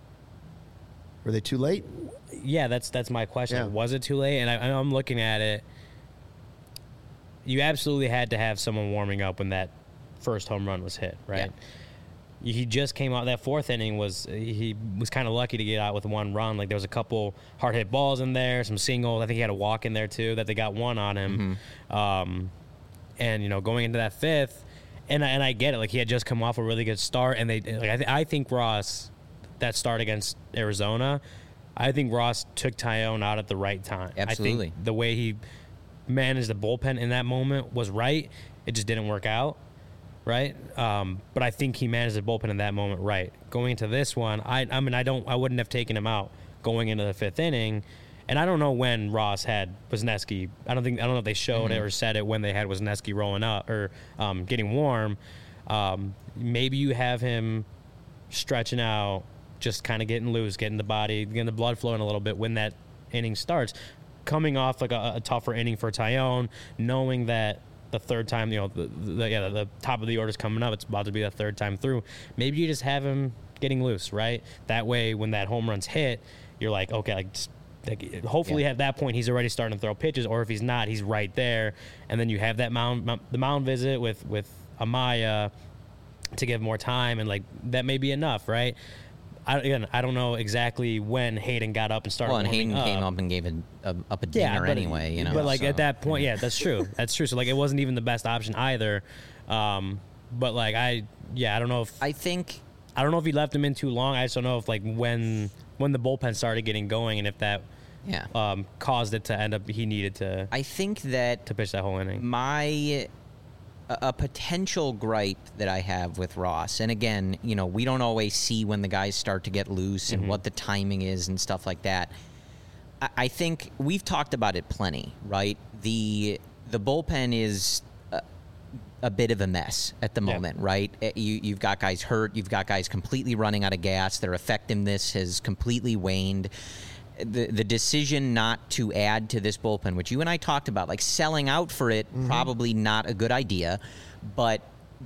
Were they too late? yeah, that's my question. Yeah. Was it too late? And I'm looking at it. You absolutely had to have someone warming up when that first home run was hit, right? He just came out. That 4th inning he was kind of lucky to get out with 1 run. Like, there was a couple hard hit balls in there, some singles. I think he had a walk in there too that they got 1 on him. And going into that 5th, and I get it. Like, he had just come off a really good start, and I think Ross, that start against Arizona, I think Ross took Tyone out at the right time. Absolutely. I think the way he managed the bullpen in that moment was right. It just didn't work out, right? But I think he managed the bullpen in that moment right. Going into this one, I wouldn't have taken him out going into the fifth inning. And I don't know when Ross had Wisniewski. I don't know if they showed it or said it when they had Wisniewski rolling up or getting warm. Maybe you have him stretching out, just kind of getting loose, getting the body, getting the blood flowing a little bit when that inning starts. Coming off like a tougher inning for Tyone, knowing that the third time, the top of the order is coming up. It's about to be the third time through. Maybe you just have him getting loose, right? That way, when that home run's hit, you're like, okay, hopefully at that point he's already starting to throw pitches, or if he's not, he's right there. And then you have that the mound visit with Amaya to give more time, and that may be enough, right? I don't know exactly when Hayden got up and started. Well, and Hayden came up and gave up a dinger anyway, But at that point, yeah, that's true. That's true. So it wasn't even the best option either. But I don't know if I don't know if he left him in too long. I just don't know if when the bullpen started getting going and if that caused it to end up he needed to. I think that to pitch that whole inning. A potential gripe that I have with Ross, and again, we don't always see when the guys start to get loose and what the timing is and stuff like that. I think we've talked about it plenty, right? The bullpen is a bit of a mess at the moment, right? You've got guys hurt, you've got guys completely running out of gas, their effectiveness has completely waned. The decision not to add to this bullpen, which you and I talked about, selling out for it, probably not a good idea, but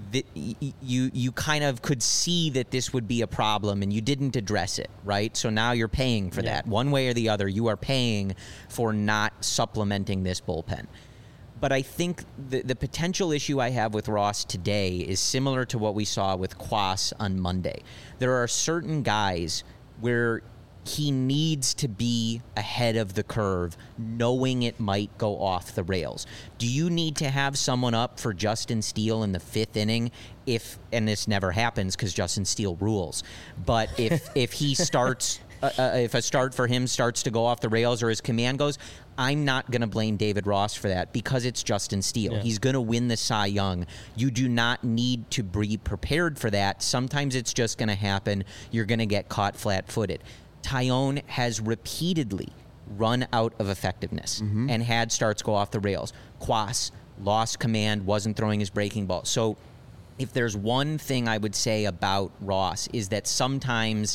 you kind of could see that this would be a problem and you didn't address it, right? So now you're paying for that. One way or the other, you are paying for not supplementing this bullpen. But I think the potential issue I have with Ross today is similar to what we saw with Kwas on Monday. There are certain guys where he needs to be ahead of the curve, knowing it might go off the rails. Do you need to have someone up for Justin Steele in the fifth inning and this never happens because Justin Steele rules, but if he starts, if a start for him starts to go off the rails or his command goes, I'm not going to blame David Ross for that because it's Justin Steele. He's going to win the Cy Young. You do not need to be prepared for that. Sometimes it's just going to happen. You're going to get caught flat-footed. Tyone has repeatedly run out of effectiveness and had starts go off the rails. Kwas lost command, wasn't throwing his breaking ball. So if there's one thing I would say about Ross is that sometimes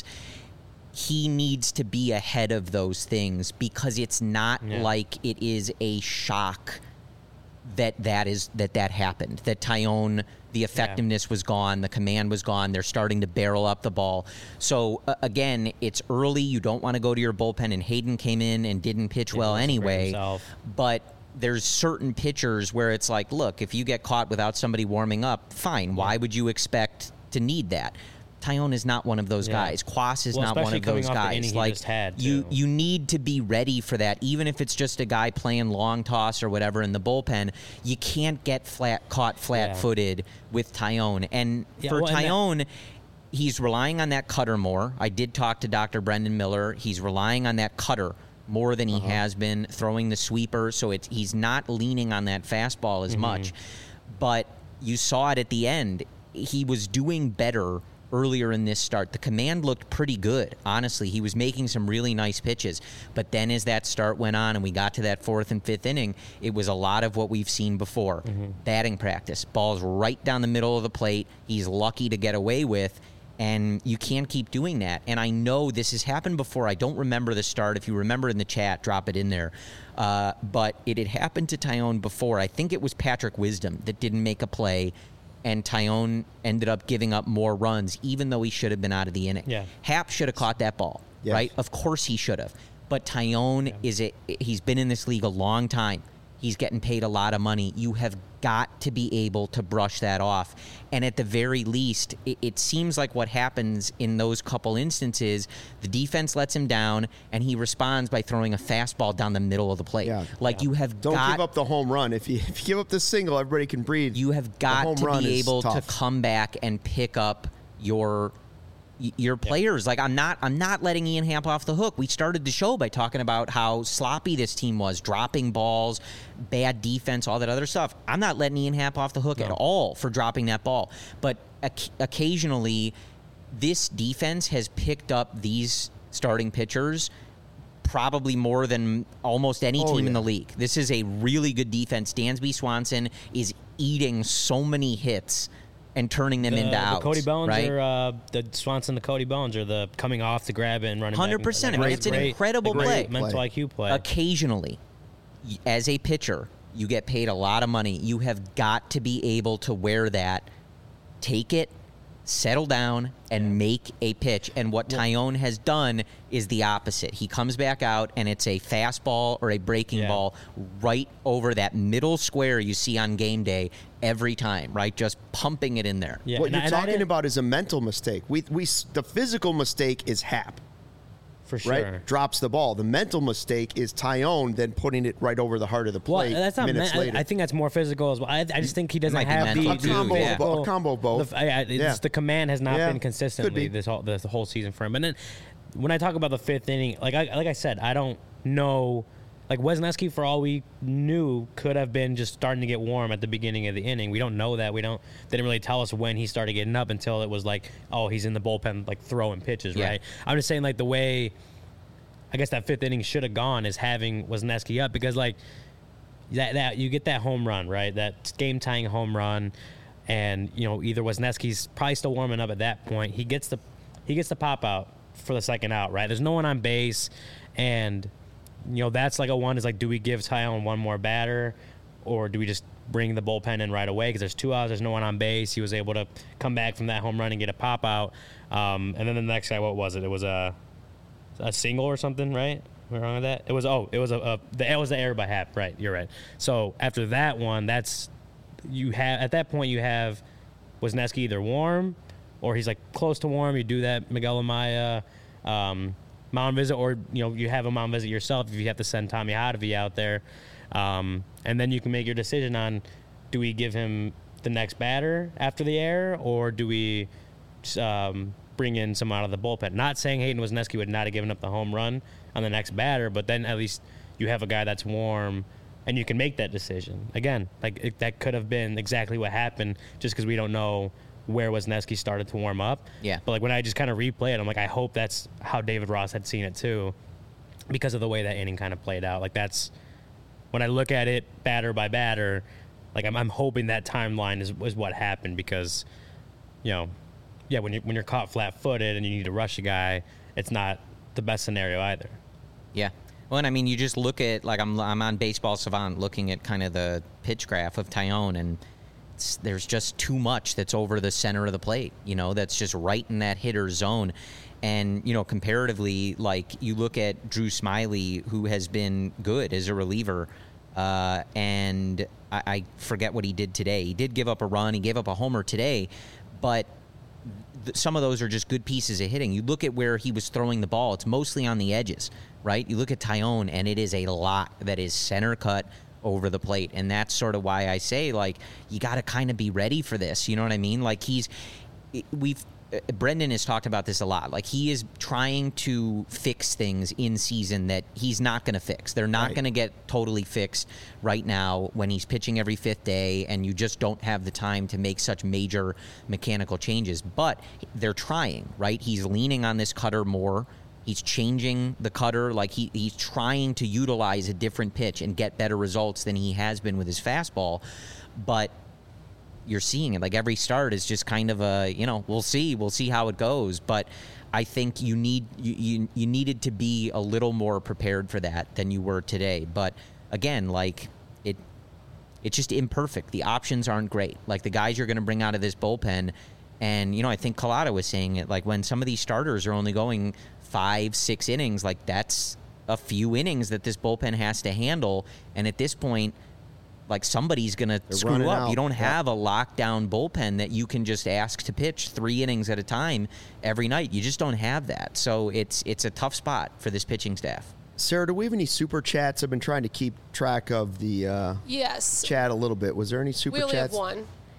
he needs to be ahead of those things because it's not like it is a shock that happened, that Tyone, the effectiveness was gone, the command was gone, they're starting to barrel up the ball. So, again, it's early, you don't want to go to your bullpen, and Hayden came in and didn't pitch well anyway, but there's certain pitchers where it's like, look, if you get caught without somebody warming up, fine, why would you expect to need that? Tyone is not one of those guys. Kwas is not one of those guys. You need to be ready for that, even if it's just a guy playing long toss or whatever in the bullpen. You can't get caught flat-footed with Tyone. And for Tyone, he's relying on that cutter more. I did talk to Dr. Brendan Miller. He's relying on that cutter more than he has been throwing the sweeper. So he's not leaning on that fastball as much. But you saw it at the end. He was doing better earlier in this start. The command looked pretty good, honestly. He was making some really nice pitches. But then as that start went on and we got to that fourth and fifth inning, it was a lot of what we've seen before. Batting practice. Balls right down the middle of the plate. He's lucky to get away with. And you can't keep doing that. And I know this has happened before. I don't remember the start. If you remember in the chat, drop it in there. But it had happened to Tyone before. I think it was Patrick Wisdom that didn't make a play, and Tyone ended up giving up more runs, even though he should have been out of the inning. Happ should have caught that ball, right? Of course he should have. But Tyone he's been in this league a long time. He's getting paid a lot of money. You have got to be able to brush that off. And at the very least, it seems like what happens in those couple instances, the defense lets him down, and he responds by throwing a fastball down the middle of the plate. You have Don't give up the home run. If you give up the single, everybody can breathe. You have got to be able to come back and pick up your your players. Like, I'm not letting Ian Happ off the hook. We started the show by talking about how sloppy this team was, dropping balls, bad defense, all that other stuff. I'm not letting Ian Happ off the hook at all for dropping that ball. But occasionally, this defense has picked up these starting pitchers probably more than almost any team in the league. This is a really good defense. Dansby Swanson is eating so many hits and turning them into outs. The Cody Bones, right? Or the Swanson, the Cody Bones, or the coming off to grab it and running 100%. back. It's an incredible play. Mental IQ play. Occasionally, as a pitcher, you get paid a lot of money. You have got to be able to wear that, take it, settle down, and make a pitch. And what Taillon has done is the opposite. He comes back out, and it's a fastball or a breaking ball right over that middle square you see on game day every time, right? Just pumping it in there. Yeah. What you're talking about is a mental mistake. The physical mistake is Happ. For sure. Right? Drops the ball. The mental mistake is Tyone then putting it right over the heart of the plate. Well, that's not minutes later. I think that's more physical as well. I just think he doesn't have a combo of both. The command has not been consistently this whole season for him. And then when I talk about the fifth inning, like I said, I don't know. Like Wesneski, for all we knew, could have been just starting to get warm at the beginning of the inning. We don't know that. They didn't really tell us when he started getting up until it was like, oh, he's in the bullpen, like throwing pitches, right? I'm just saying, like, the way I guess that fifth inning should have gone is having Wesneski up, because like that you get that home run, right? That game tying home run, and either Wesneski's probably still warming up at that point. He gets the pop out for the second out, right? There's no one on base, and that's like a one is like, do we give Tyone one more batter, or do we just bring the bullpen in right away? Because there's 2 outs, there's no one on base. He was able to come back from that home run and get a pop out. And then the next guy, what was it? It was a single or something, right? Am I wrong with that? It was the error by Happ, right? You're right. So after that one, at that point you have Wesneski either warm or he's like close to warm. You do that Miguel Amaya mound visit, or you have a mound visit yourself if you have to send Tommy Hotovy out there, and then you can make your decision on, do we give him the next batter after the error, or do we bring in some out of the bullpen? Not saying Hayden Wesneski would not have given up the home run on the next batter, but then at least you have a guy that's warm and you can make that decision. Again, that could have been exactly what happened, just because we don't know where Wesneski started to warm up. Yeah. But when I just kind of replay it, I'm like, I hope that's how David Ross had seen it too, because of the way that inning kind of played out. Like, that's when I look at it batter by batter, like I'm hoping that timeline is what happened, because when you're caught flat-footed and you need to rush a guy, it's not the best scenario either. Yeah. Well, and I mean, you just look at, like, I'm on Baseball Savant looking at kind of the pitch graph of Tyone, and there's just too much that's over the center of the plate, that's just right in that hitter's zone. And, comparatively, like, you look at Drew Smyly, who has been good as a reliever, and I forget what he did today. He did give up a run. He gave up a homer today, but some of those are just good pieces of hitting. You look at where he was throwing the ball, it's mostly on the edges, right? You look at Tyone, and it is a lot that is center cut over the plate. And that's sort of why I say, like, you got to kind of be ready for this. You know what I mean? Like, Brendan has talked about this a lot. Like, he is trying to fix things in season that he's not going to fix. They're not going to get totally fixed right now when he's pitching every fifth day, and you just don't have the time to make such major mechanical changes. But they're trying, right? He's leaning on this cutter more. He's changing the cutter. Like, he's trying to utilize a different pitch and get better results than he has been with his fastball. But you're seeing it. Like, every start is just kind of a, we'll see how it goes. But I think you needed to be a little more prepared for that than you were today. But again, like, it's just imperfect. The options aren't great. Like, the guys you're going to bring out of this bullpen, and I think Collada was saying it, like, when some of these starters are only going 5-6 innings, like, that's a few innings that this bullpen has to handle. And at this point, like, somebody's going to screw up. You don't have a lockdown bullpen that you can just ask to pitch 3 innings at a time every night. You just don't have that. So it's a tough spot for this pitching staff. Sarah, do we have any super chats? I've been trying to keep track of the yes. chat a little bit. Was there any super chats? We only have one.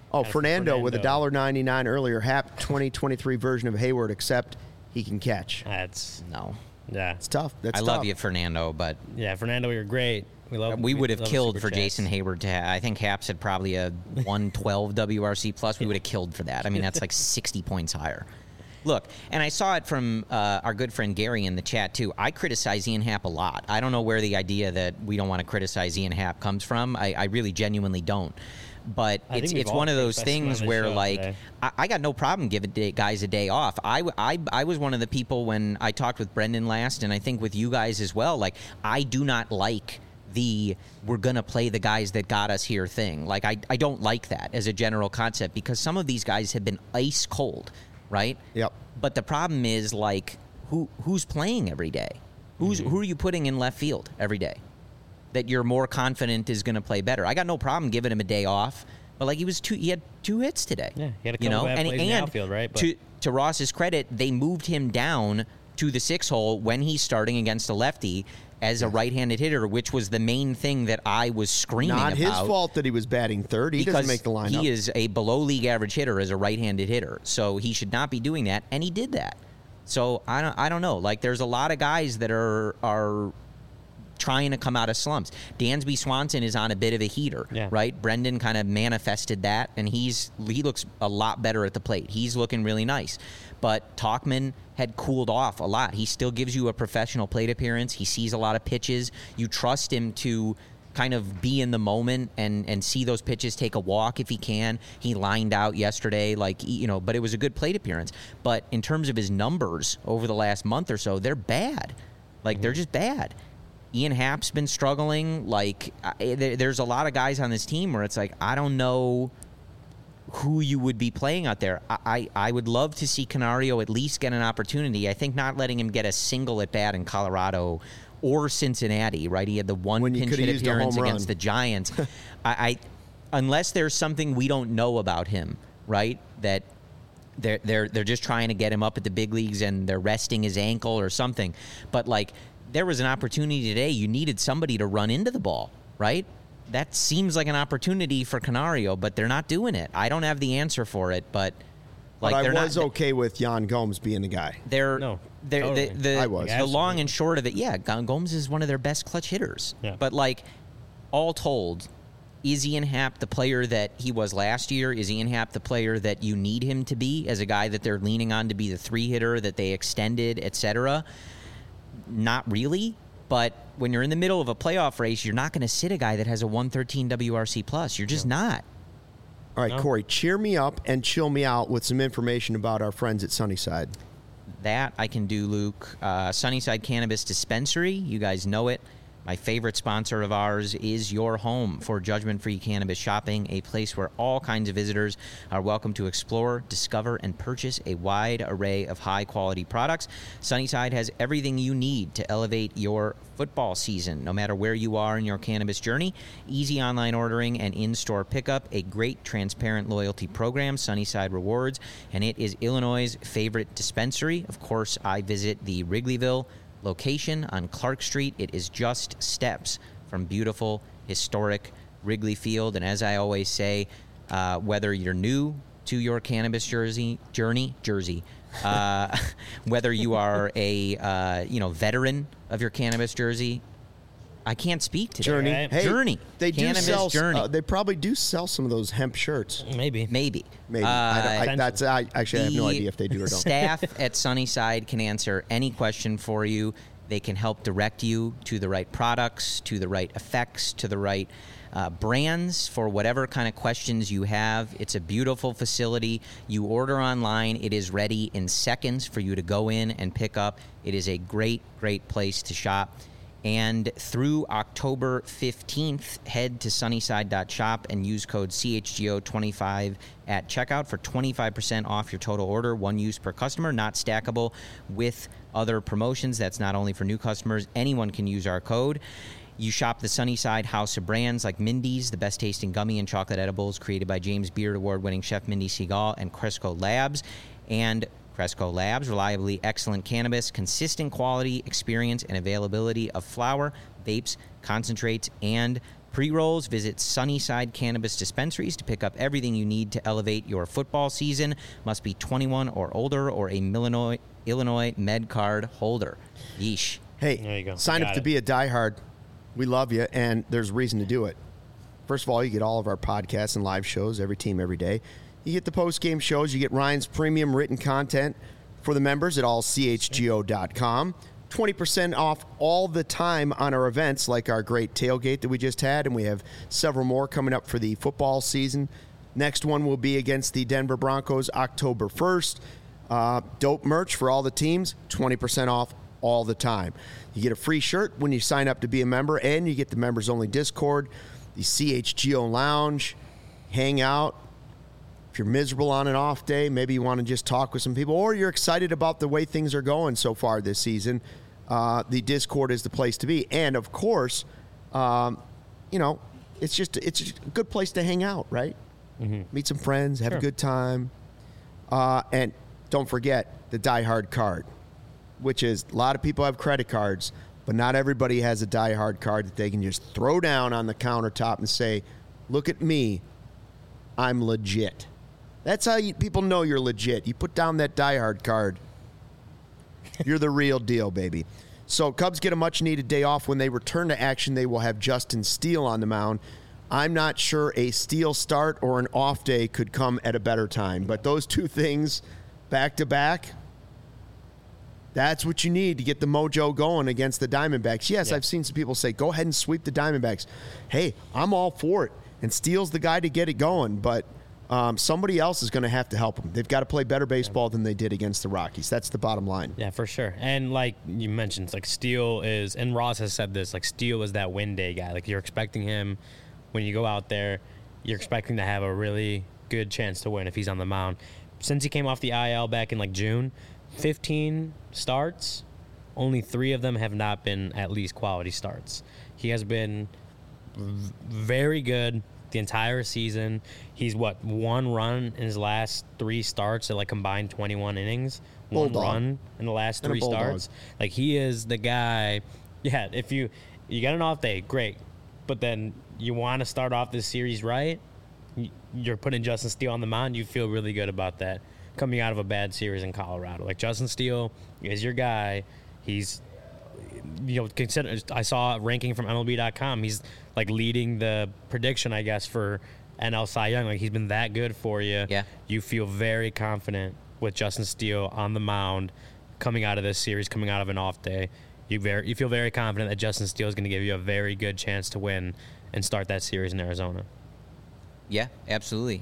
Oh, That's Fernando with Fernando. $1.99 earlier. Hap 2023 version of Hayward, except he can catch. That's No. yeah, It's tough. That's I tough. love you, Fernando, but yeah. Fernando, you're great. we would have love killed super for chats. Jason Hayward to have. I think Haps had probably a 112 WRC plus. We would have killed for that. I mean, that's like 60 points higher. Look, and I saw it from our good friend Gary in the chat, too. I criticize Ian Happ a lot. I don't know where the idea that we don't want to criticize Ian Happ comes from. I really genuinely don't. But I think we've it's all one of those criticized him on things this where, show like, today. I got no problem giving guys a day off. I was one of the people when I talked with Brendan last, and I think with you guys as well, like, I do not like the we're going to play the guys that got us here thing. Like, I don't like that as a general concept because some of these guys have been ice cold, right? Yep. But the problem is, like, who's playing every day? Who are you putting in left field every day that you're more confident is going to play better? I got no problem giving him a day off, but like he had 2 hits today. Yeah, he had a couple bad plays in the outfield, right? But To Ross's credit, they moved him down to the 6 hole when he's starting against a lefty as a right-handed hitter, which was the main thing that I was screaming Not about. his fault that he was batting third. He doesn't make the lineup. He is a below-league average hitter as a right-handed hitter, so he should not be doing that, and he did that. So I don't know. Like, there's a lot of guys that are trying to come out of slumps. Dansby Swanson is on a bit of a heater, right? Brendan kind of manifested that, and he looks a lot better at the plate. He's looking really nice. But Tauchman had cooled off a lot. He still gives you a professional plate appearance. He sees a lot of pitches. You trust him to kind of be in the moment and see those pitches, take a walk if he can. He lined out yesterday, but it was a good plate appearance. But in terms of his numbers over the last month or so, they're bad. Like, they're just bad. Ian Happ's been struggling. Like, there's a lot of guys on this team where it's like, I don't know who you would be playing out there. I would love to see Canario at least get an opportunity. I think not letting him get a single at bat in Colorado or Cincinnati, right? He had the one pinch hit appearance against the Giants. Unless there's something we don't know about him, right? That they're just trying to get him up at the big leagues and they're resting his ankle or something. But like, there was an opportunity today. You needed somebody to run into the ball, right? That seems like an opportunity for Canario, but they're not doing it. I don't have the answer for it, but like, I was okay with Jan Gomes being the guy. I was. The long and short of it, Gomes is one of their best clutch hitters. Yeah. But like, all told, is Ian Happ the player that he was last year? Is Ian Happ the player that you need him to be as a guy that they're leaning on to be the 3 hitter that they extended, etc.? Not really. But when you're in the middle of a playoff race, you're not going to sit a guy that has a 113 WRC plus. You're just not. All right, Corey, cheer me up and chill me out with some information about our friends at Sunnyside. That I can do, Luke. Sunnyside Cannabis Dispensary, you guys know it. My favorite sponsor of ours is your home for judgment-free cannabis shopping, a place where all kinds of visitors are welcome to explore, discover, and purchase a wide array of high-quality products. Sunnyside has everything you need to elevate your football season, no matter where you are in your cannabis journey. Easy online ordering and in-store pickup, a great transparent loyalty program, Sunnyside Rewards, and it is Illinois' favorite dispensary. Of course, I visit the Wrigleyville location on Clark Street. It is just steps from beautiful, historic Wrigley Field. And as I always say, whether you're new to your cannabis journey, whether you are a veteran of your cannabis jersey, I can't speak to Journey. that. Hey, Journey. They do Cannabis sell. Journey. They probably do sell some of those hemp shirts. Maybe. Maybe. I have no idea if they do or don't. Staff at Sunnyside can answer any question for you. They can help direct you to the right products, to the right effects, to the right brands for whatever kind of questions you have. It's a beautiful facility. You order online. It is ready in seconds for you to go in and pick up. It is a great, great place to shop. And through October 15th, head to sunnyside.shop and use code CHGO25 at checkout for 25% off your total order, one use per customer, not stackable with other promotions. That's not only for new customers. Anyone can use our code. You shop the Sunnyside house of brands like Mindy's, the best tasting gummy and chocolate edibles created by James Beard Award-winning chef Mindy Seagal, and Cresco Labs. And Cresco Labs, reliably excellent cannabis, consistent quality, experience, and availability of flower, vapes, concentrates, and pre-rolls. Visit Sunnyside Cannabis Dispensaries to pick up everything you need to elevate your football season. Must be 21 or older or a Illinois Med Card holder. Yeesh. Hey, There you go. sign up Got to it. be a diehard. We love you, and there's reason to do it. First of all, you get all of our podcasts and live shows, every team, every day. You get the post-game shows. You get Ryan's premium written content for the members at allchgo.com. 20% off all the time on our events, like our great tailgate that we just had, and we have several more coming up for the football season. Next one will be against the Denver Broncos October 1st. Dope merch for all the teams, 20% off all the time. You get a free shirt when you sign up to be a member, and you get the members-only Discord, the CHGO Lounge, hang out. If you're miserable on an off day, maybe you want to just talk with some people, or you're excited about the way things are going so far this season, the Discord is the place to be. And, of course, it's just a good place to hang out, right? Mm-hmm. Meet some friends, have a good time. And don't forget the Die Hard card, which is a lot of people have credit cards, but not everybody has a Die Hard card that they can just throw down on the countertop and say, look at me, I'm legit. That's how people know you're legit. You put down that Die Hard card, you're the real deal, baby. So Cubs get a much-needed day off. When they return to action, they will have Justin Steele on the mound. I'm not sure a Steele start or an off day could come at a better time, but those two things back-to-back, that's what you need to get the mojo going against the Diamondbacks. Yes, I've seen some people say, go ahead and sweep the Diamondbacks. Hey, I'm all for it. And Steele's the guy to get it going, but somebody else is going to have to help them. They've got to play better baseball than they did against the Rockies. That's the bottom line. Yeah, for sure. And like you mentioned, like Steele is, and Ross has said this, like Steele is that win day guy. Like you're expecting him, when you go out there, you're expecting to have a really good chance to win if he's on the mound. Since he came off the IL back in like June, 15 starts, only 3 of them have not been at least quality starts. He has been very good the entire season. He's one run in his last 3 starts at like combined 21 innings. One run in the last 3 starts. Like he is the guy. Yeah, if you got an off day, great. But then you want to start off this series right, you're putting Justin Steele on the mound, you feel really good about that coming out of a bad series in Colorado. Like Justin Steele is your guy. He's, consider, I saw a ranking from MLB.com. He's like leading the prediction, I guess, for NL Cy Young. Like he's been that good for you. Yeah. You feel very confident with Justin Steele on the mound coming out of this series, coming out of an off day. You feel very confident that Justin Steele is going to give you a very good chance to win and start that series in Arizona. Yeah, absolutely.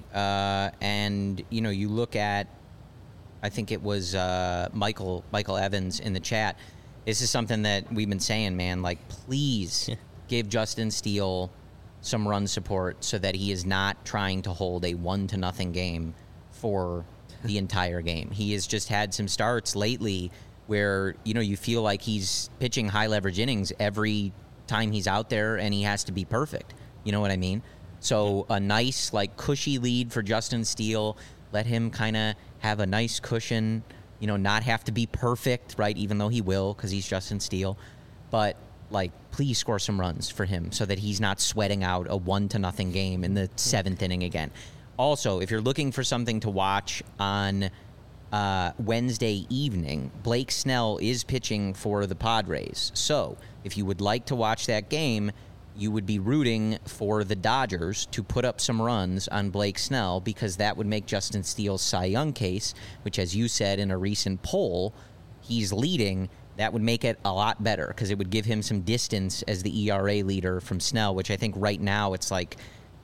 And you look at, I think it was Michael Evans in the chat. This is something that we've been saying, man. Like, please give Justin Steele some run support so that he is not trying to hold a 1-0 game for the entire game. He has just had some starts lately where you feel like he's pitching high leverage innings every time he's out there, and he has to be perfect. You know what I mean? So a nice, like, cushy lead for Justin Steele. Let him kind of have a nice cushion, not have to be perfect, right, even though he will because he's Justin Steele. But, like, please score some runs for him so that he's not sweating out a 1-0 game in the 7th inning again. Also, if you're looking for something to watch on Wednesday evening, Blake Snell is pitching for the Padres. So if you would like to watch that game, you would be rooting for the Dodgers to put up some runs on Blake Snell, because that would make Justin Steele's Cy Young case, which, as you said in a recent poll, he's leading. That would make it a lot better because it would give him some distance as the ERA leader from Snell, which I think right now it's like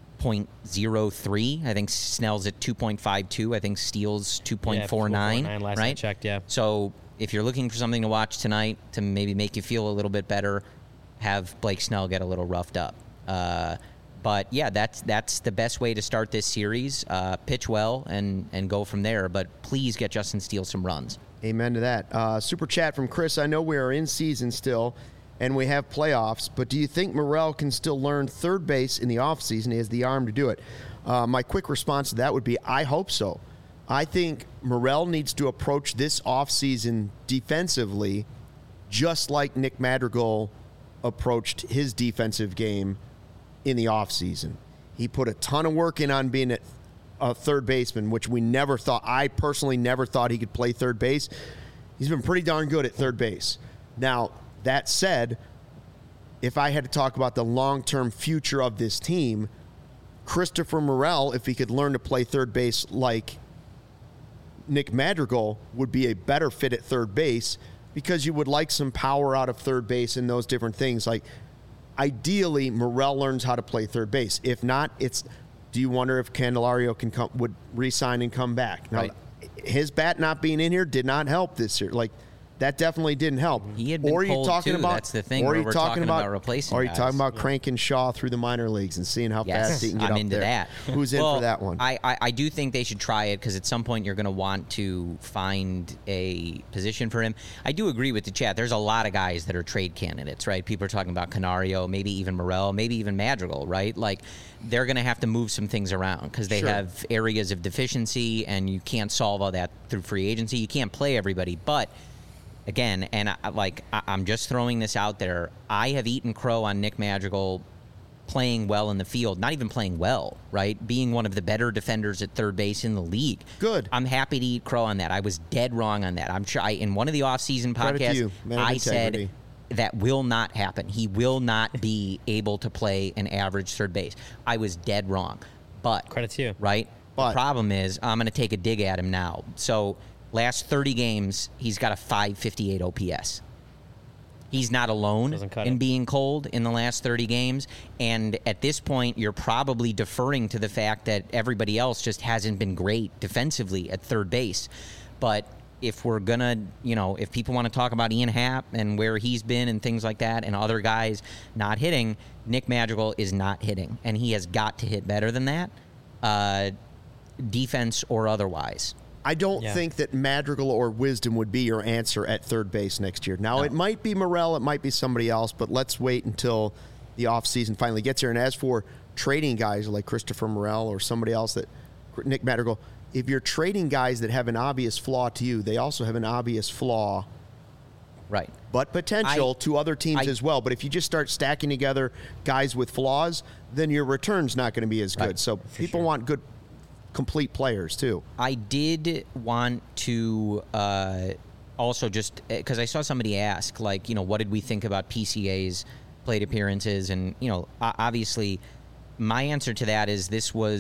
0.03. I think Snell's at 2.52. I think Steele's 2.49. Last right? I checked, yeah. So if you're looking for something to watch tonight to maybe make you feel a little bit better, have Blake Snell get a little roughed up. But yeah, that's the best way to start this series. Pitch well and go from there. But please get Justin Steele some runs. Amen to that. Super chat from Chris. I know we are in season still, and we have playoffs, but do you think Morel can still learn third base in the offseason? He has the arm to do it. My quick response to that would be, I hope so. I think Morel needs to approach this offseason defensively just like Nick Madrigal approached his defensive game in the offseason. He put a ton of work in on being a third baseman, which I personally never thought he could play third base. He's been pretty darn good at third base. Now, that said, if I had to talk about the long-term future of this team, Christopher Morel, if he could learn to play third base like Nick Madrigal, would be a better fit at third base because you would like some power out of third base and those different things. Like, ideally, Morel learns how to play third base. If not, do you wonder if Candelario would re-sign and come back? Now, right. His bat not being in here did not help this year. Like, that definitely didn't help. He had been cold too. That's the thing. Or we're talking about replacing. Or are you guys. talking about cranking Shaw through the minor leagues and seeing how fast he can get I'm up into there? That. Who's in for that one? I do think they should try it because at some point you're going to want to find a position for him. I do agree with the chat. There's a lot of guys that are trade candidates, right? People are talking about Canario, maybe even Morel, maybe even Madrigal, right? Like, they're going to have to move some things around because they have areas of deficiency, and you can't solve all that through free agency. You can't play everybody, but again, and I'm just throwing this out there, I have eaten crow on Nick Madrigal playing well in the field, not even playing well, right? Being one of the better defenders at third base in the league. Good. I'm happy to eat crow on that. I was dead wrong on that. I'm sure in one of the offseason podcasts, I said that will not happen. He will not be able to play an average third base. I was dead wrong. But credit to you. Right? But the problem is I'm going to take a dig at him now. So last 30 games, he's got a 558 OPS. He's not alone in being cold in the last 30 games. And at this point, you're probably deferring to the fact that everybody else just hasn't been great defensively at third base. But if we're going to, if people want to talk about Ian Happ and where he's been and things like that and other guys not hitting, Nick Madrigal is not hitting. And he has got to hit better than that, defense or otherwise. I don't think that Madrigal or Wisdom would be your answer at third base next year. Now, It might be Morel, it might be somebody else, but let's wait until the offseason finally gets here. And as for trading guys like Christopher Morel or somebody else Nick Madrigal, if you're trading guys that have an obvious flaw to you, they also have an obvious flaw, right? But potential to other teams as well. But if you just start stacking together guys with flaws, then your return's not going to be as good. Right. So people want good, complete players too. I did want to also just because I saw somebody ask, what did we think about PCA's plate appearances? And, obviously my answer to that is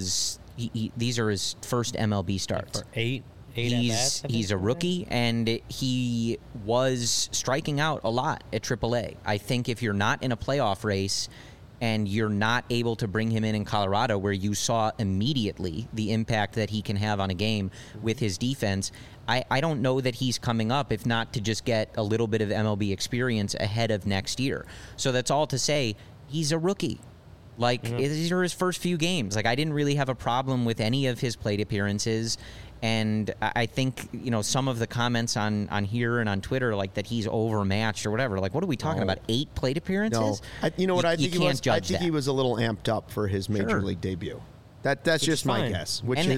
these are his first MLB starts. For eight he's a rookie, and he was striking out a lot at AAA. I think if you're not in a playoff race and you're not able to bring him in Colorado, where you saw immediately the impact that he can have on a game with his defense, I don't know that he's coming up, if not to just get a little bit of MLB experience ahead of next year. So that's all to say, he's a rookie. These are his first few games. I didn't really have a problem with any of his plate appearances. And I think, some of the comments on here and on Twitter, that he's overmatched or whatever. What are we talking about? 8 plate appearances? No. I think he was? I think he was a little amped up for his major league debut. That's just my guess.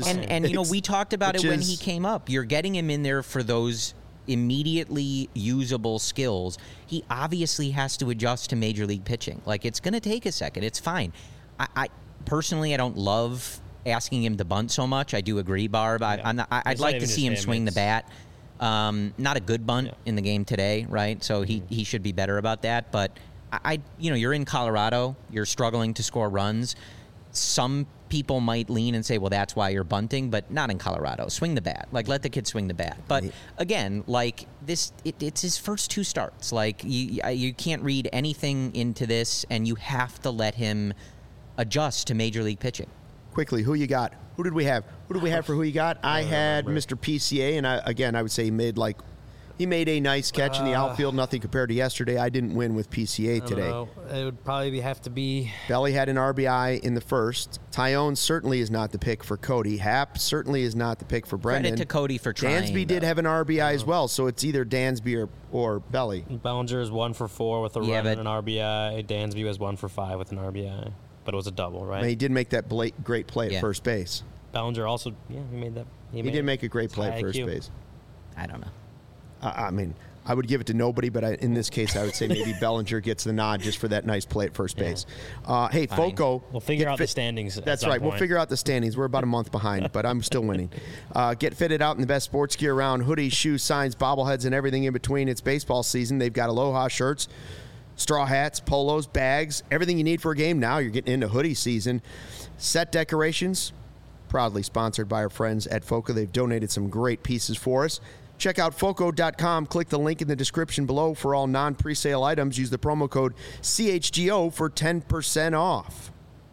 We talked about it when he came up. You're getting him in there for those immediately usable skills. He obviously has to adjust to major league pitching. It's going to take a second. It's fine. I personally, I don't love asking him to bunt so much. I do agree, Barb. I'd like to see him swing the bat. Not a good bunt in the game today, right? So he should be better about that. But you're in Colorado. You're struggling to score runs. Some people might lean and say, well, that's why you're bunting, but not in Colorado. Swing the bat. Let the kid swing the bat. But again, it's his first 2 starts. You can't read anything into this, and you have to let him adjust to major league pitching. Quickly, who you got? Who did we have? Who did we have for who you got? I had Mr. PCA, and I would say he made a nice catch in the outfield. Nothing compared to yesterday. I didn't win with PCA today. It would probably have to be. Belly had an RBI in the first. Tyone certainly is not the pick for Cody. Happ certainly is not the pick for Brendan. Credit to Cody for trying. Dansby did have an RBI as well, so it's either Dansby or Belly. Bellinger is 1 for 4 with a run and an RBI. Dansby was 1 for 5 with an RBI, but it was a double, right? He did make that great play at first base. Bellinger also, he made that. He did make a great play at first base. I don't know. I would give it to nobody, but in this case, I would say maybe Bellinger gets the nod just for that nice play at first base. Hey, Fine. Foco. We'll figure out the standings. That's right. We'll figure out the standings. We're about a month behind, but I'm still winning. Get fitted out in the best sports gear around. Hoodies, shoes, signs, bobbleheads, and everything in between. It's baseball season. They've got Aloha shirts, straw hats, polos, bags, everything you need for a game now. You're getting into hoodie season. Set decorations, proudly sponsored by our friends at Foco. They've donated some great pieces for us. Check out Foco.com. Click the link in the description below for all non-presale items. Use the promo code CHGO for 10% off.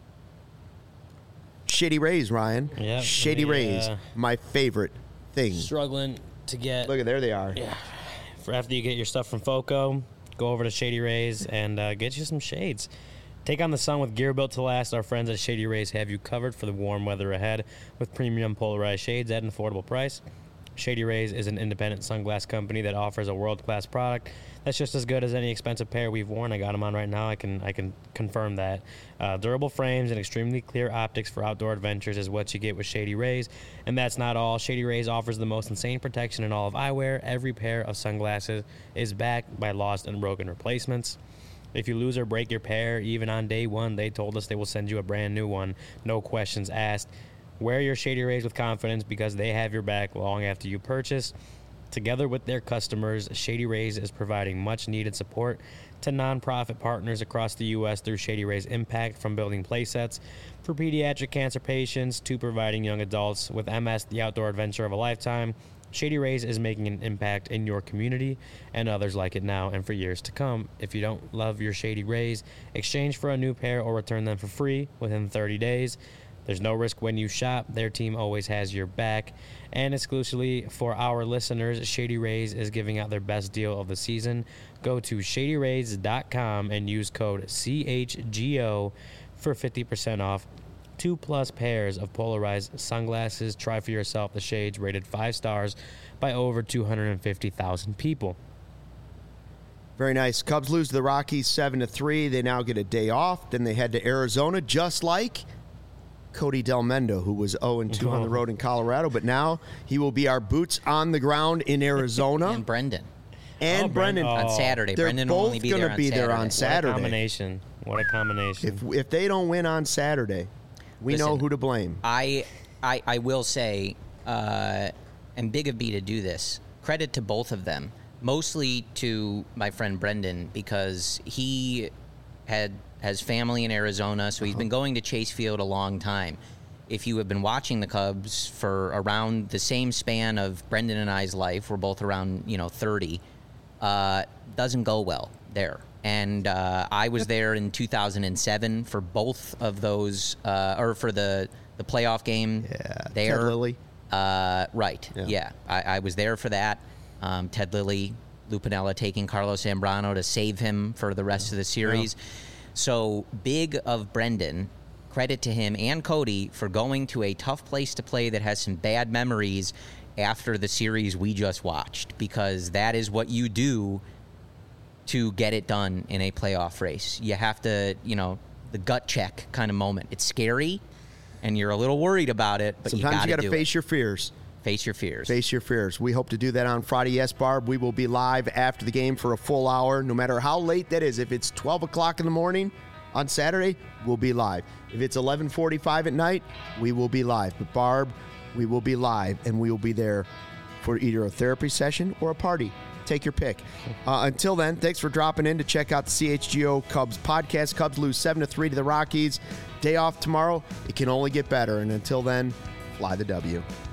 Shady Rays, Ryan. Yep, Shady Rays, my favorite thing. Struggling to get. Look, there they are. Yeah. For after you get your stuff from Foco, go over to Shady Rays and get you some shades. Take on the sun with gear built to last. Our friends at Shady Rays have you covered for the warm weather ahead with premium polarized shades at an affordable price. Shady Rays is an independent sunglass company that offers a world-class product that's just as good as any expensive pair we've worn. I got them on right now. I can confirm that. Durable frames and extremely clear optics for outdoor adventures is what you get with Shady Rays. And that's not all. Shady Rays offers the most insane protection in all of eyewear. Every pair of sunglasses is backed by lost and broken replacements. If you lose or break your pair, even on day one, they told us they will send you a brand new one. No questions asked. Wear your Shady Rays with confidence because they have your back long after you purchase. Together with their customers, Shady Rays is providing much-needed support to nonprofit partners across the U.S. through Shady Rays Impact, from building playsets for pediatric cancer patients to providing young adults with MS the outdoor adventure of a lifetime. Shady Rays is making an impact in your community and others like it now and for years to come. If you don't love your Shady Rays, exchange for a new pair or return them for free within 30 days. There's no risk when you shop. Their team always has your back. And exclusively for our listeners, Shady Rays is giving out their best deal of the season. Go to shadyrays.com and use code CHGO for 50% off. 2+ pairs of polarized sunglasses. Try for yourself the shades rated 5 stars by over 250,000 people. Very nice. Cubs lose to the Rockies 7-3. They now get a day off. Then they head to Arizona, just like Cody Delmendo, who was 0-2 on the road in Colorado, but now he will be our boots on the ground in Arizona. And Brendan. And Brendan. On Saturday. They're Brendan both will only be there on Saturday. What a combination. What a combination. If they don't win on Saturday, we know who to blame. I will say, and big of me to do this, credit to both of them. Mostly to my friend Brendan, because he has family in Arizona, so he's been going to Chase Field a long time. If you have been watching the Cubs for around the same span of Brendan and I's life, we're both around 30, doesn't go well there. And I was there in 2007 for both of those, or for the playoff game there. Ted Lilly. Right, yeah. I was there for that. Ted Lilly, Lou Piniella taking Carlos Zambrano to save him for the rest of the series. Yeah. So big of Brendan, credit to him and Cody for going to a tough place to play that has some bad memories after the series we just watched, because that is what you do to get it done in a playoff race. You have to, the gut check kind of moment. It's scary, and you're a little worried about it, but sometimes you got to face your fears. Face your fears. Face your fears. We hope to do that on Friday. Yes, Barb, we will be live after the game for a full hour, no matter how late that is. If it's 12 o'clock in the morning on Saturday, we'll be live. If it's 11:45 at night, we will be live. But Barb, we will be live, and we will be there for either a therapy session or a party. Take your pick. Until then, thanks for dropping in to check out the CHGO Cubs podcast. Cubs lose 7-3 to the Rockies. Day off tomorrow. It can only get better. And until then, fly the W.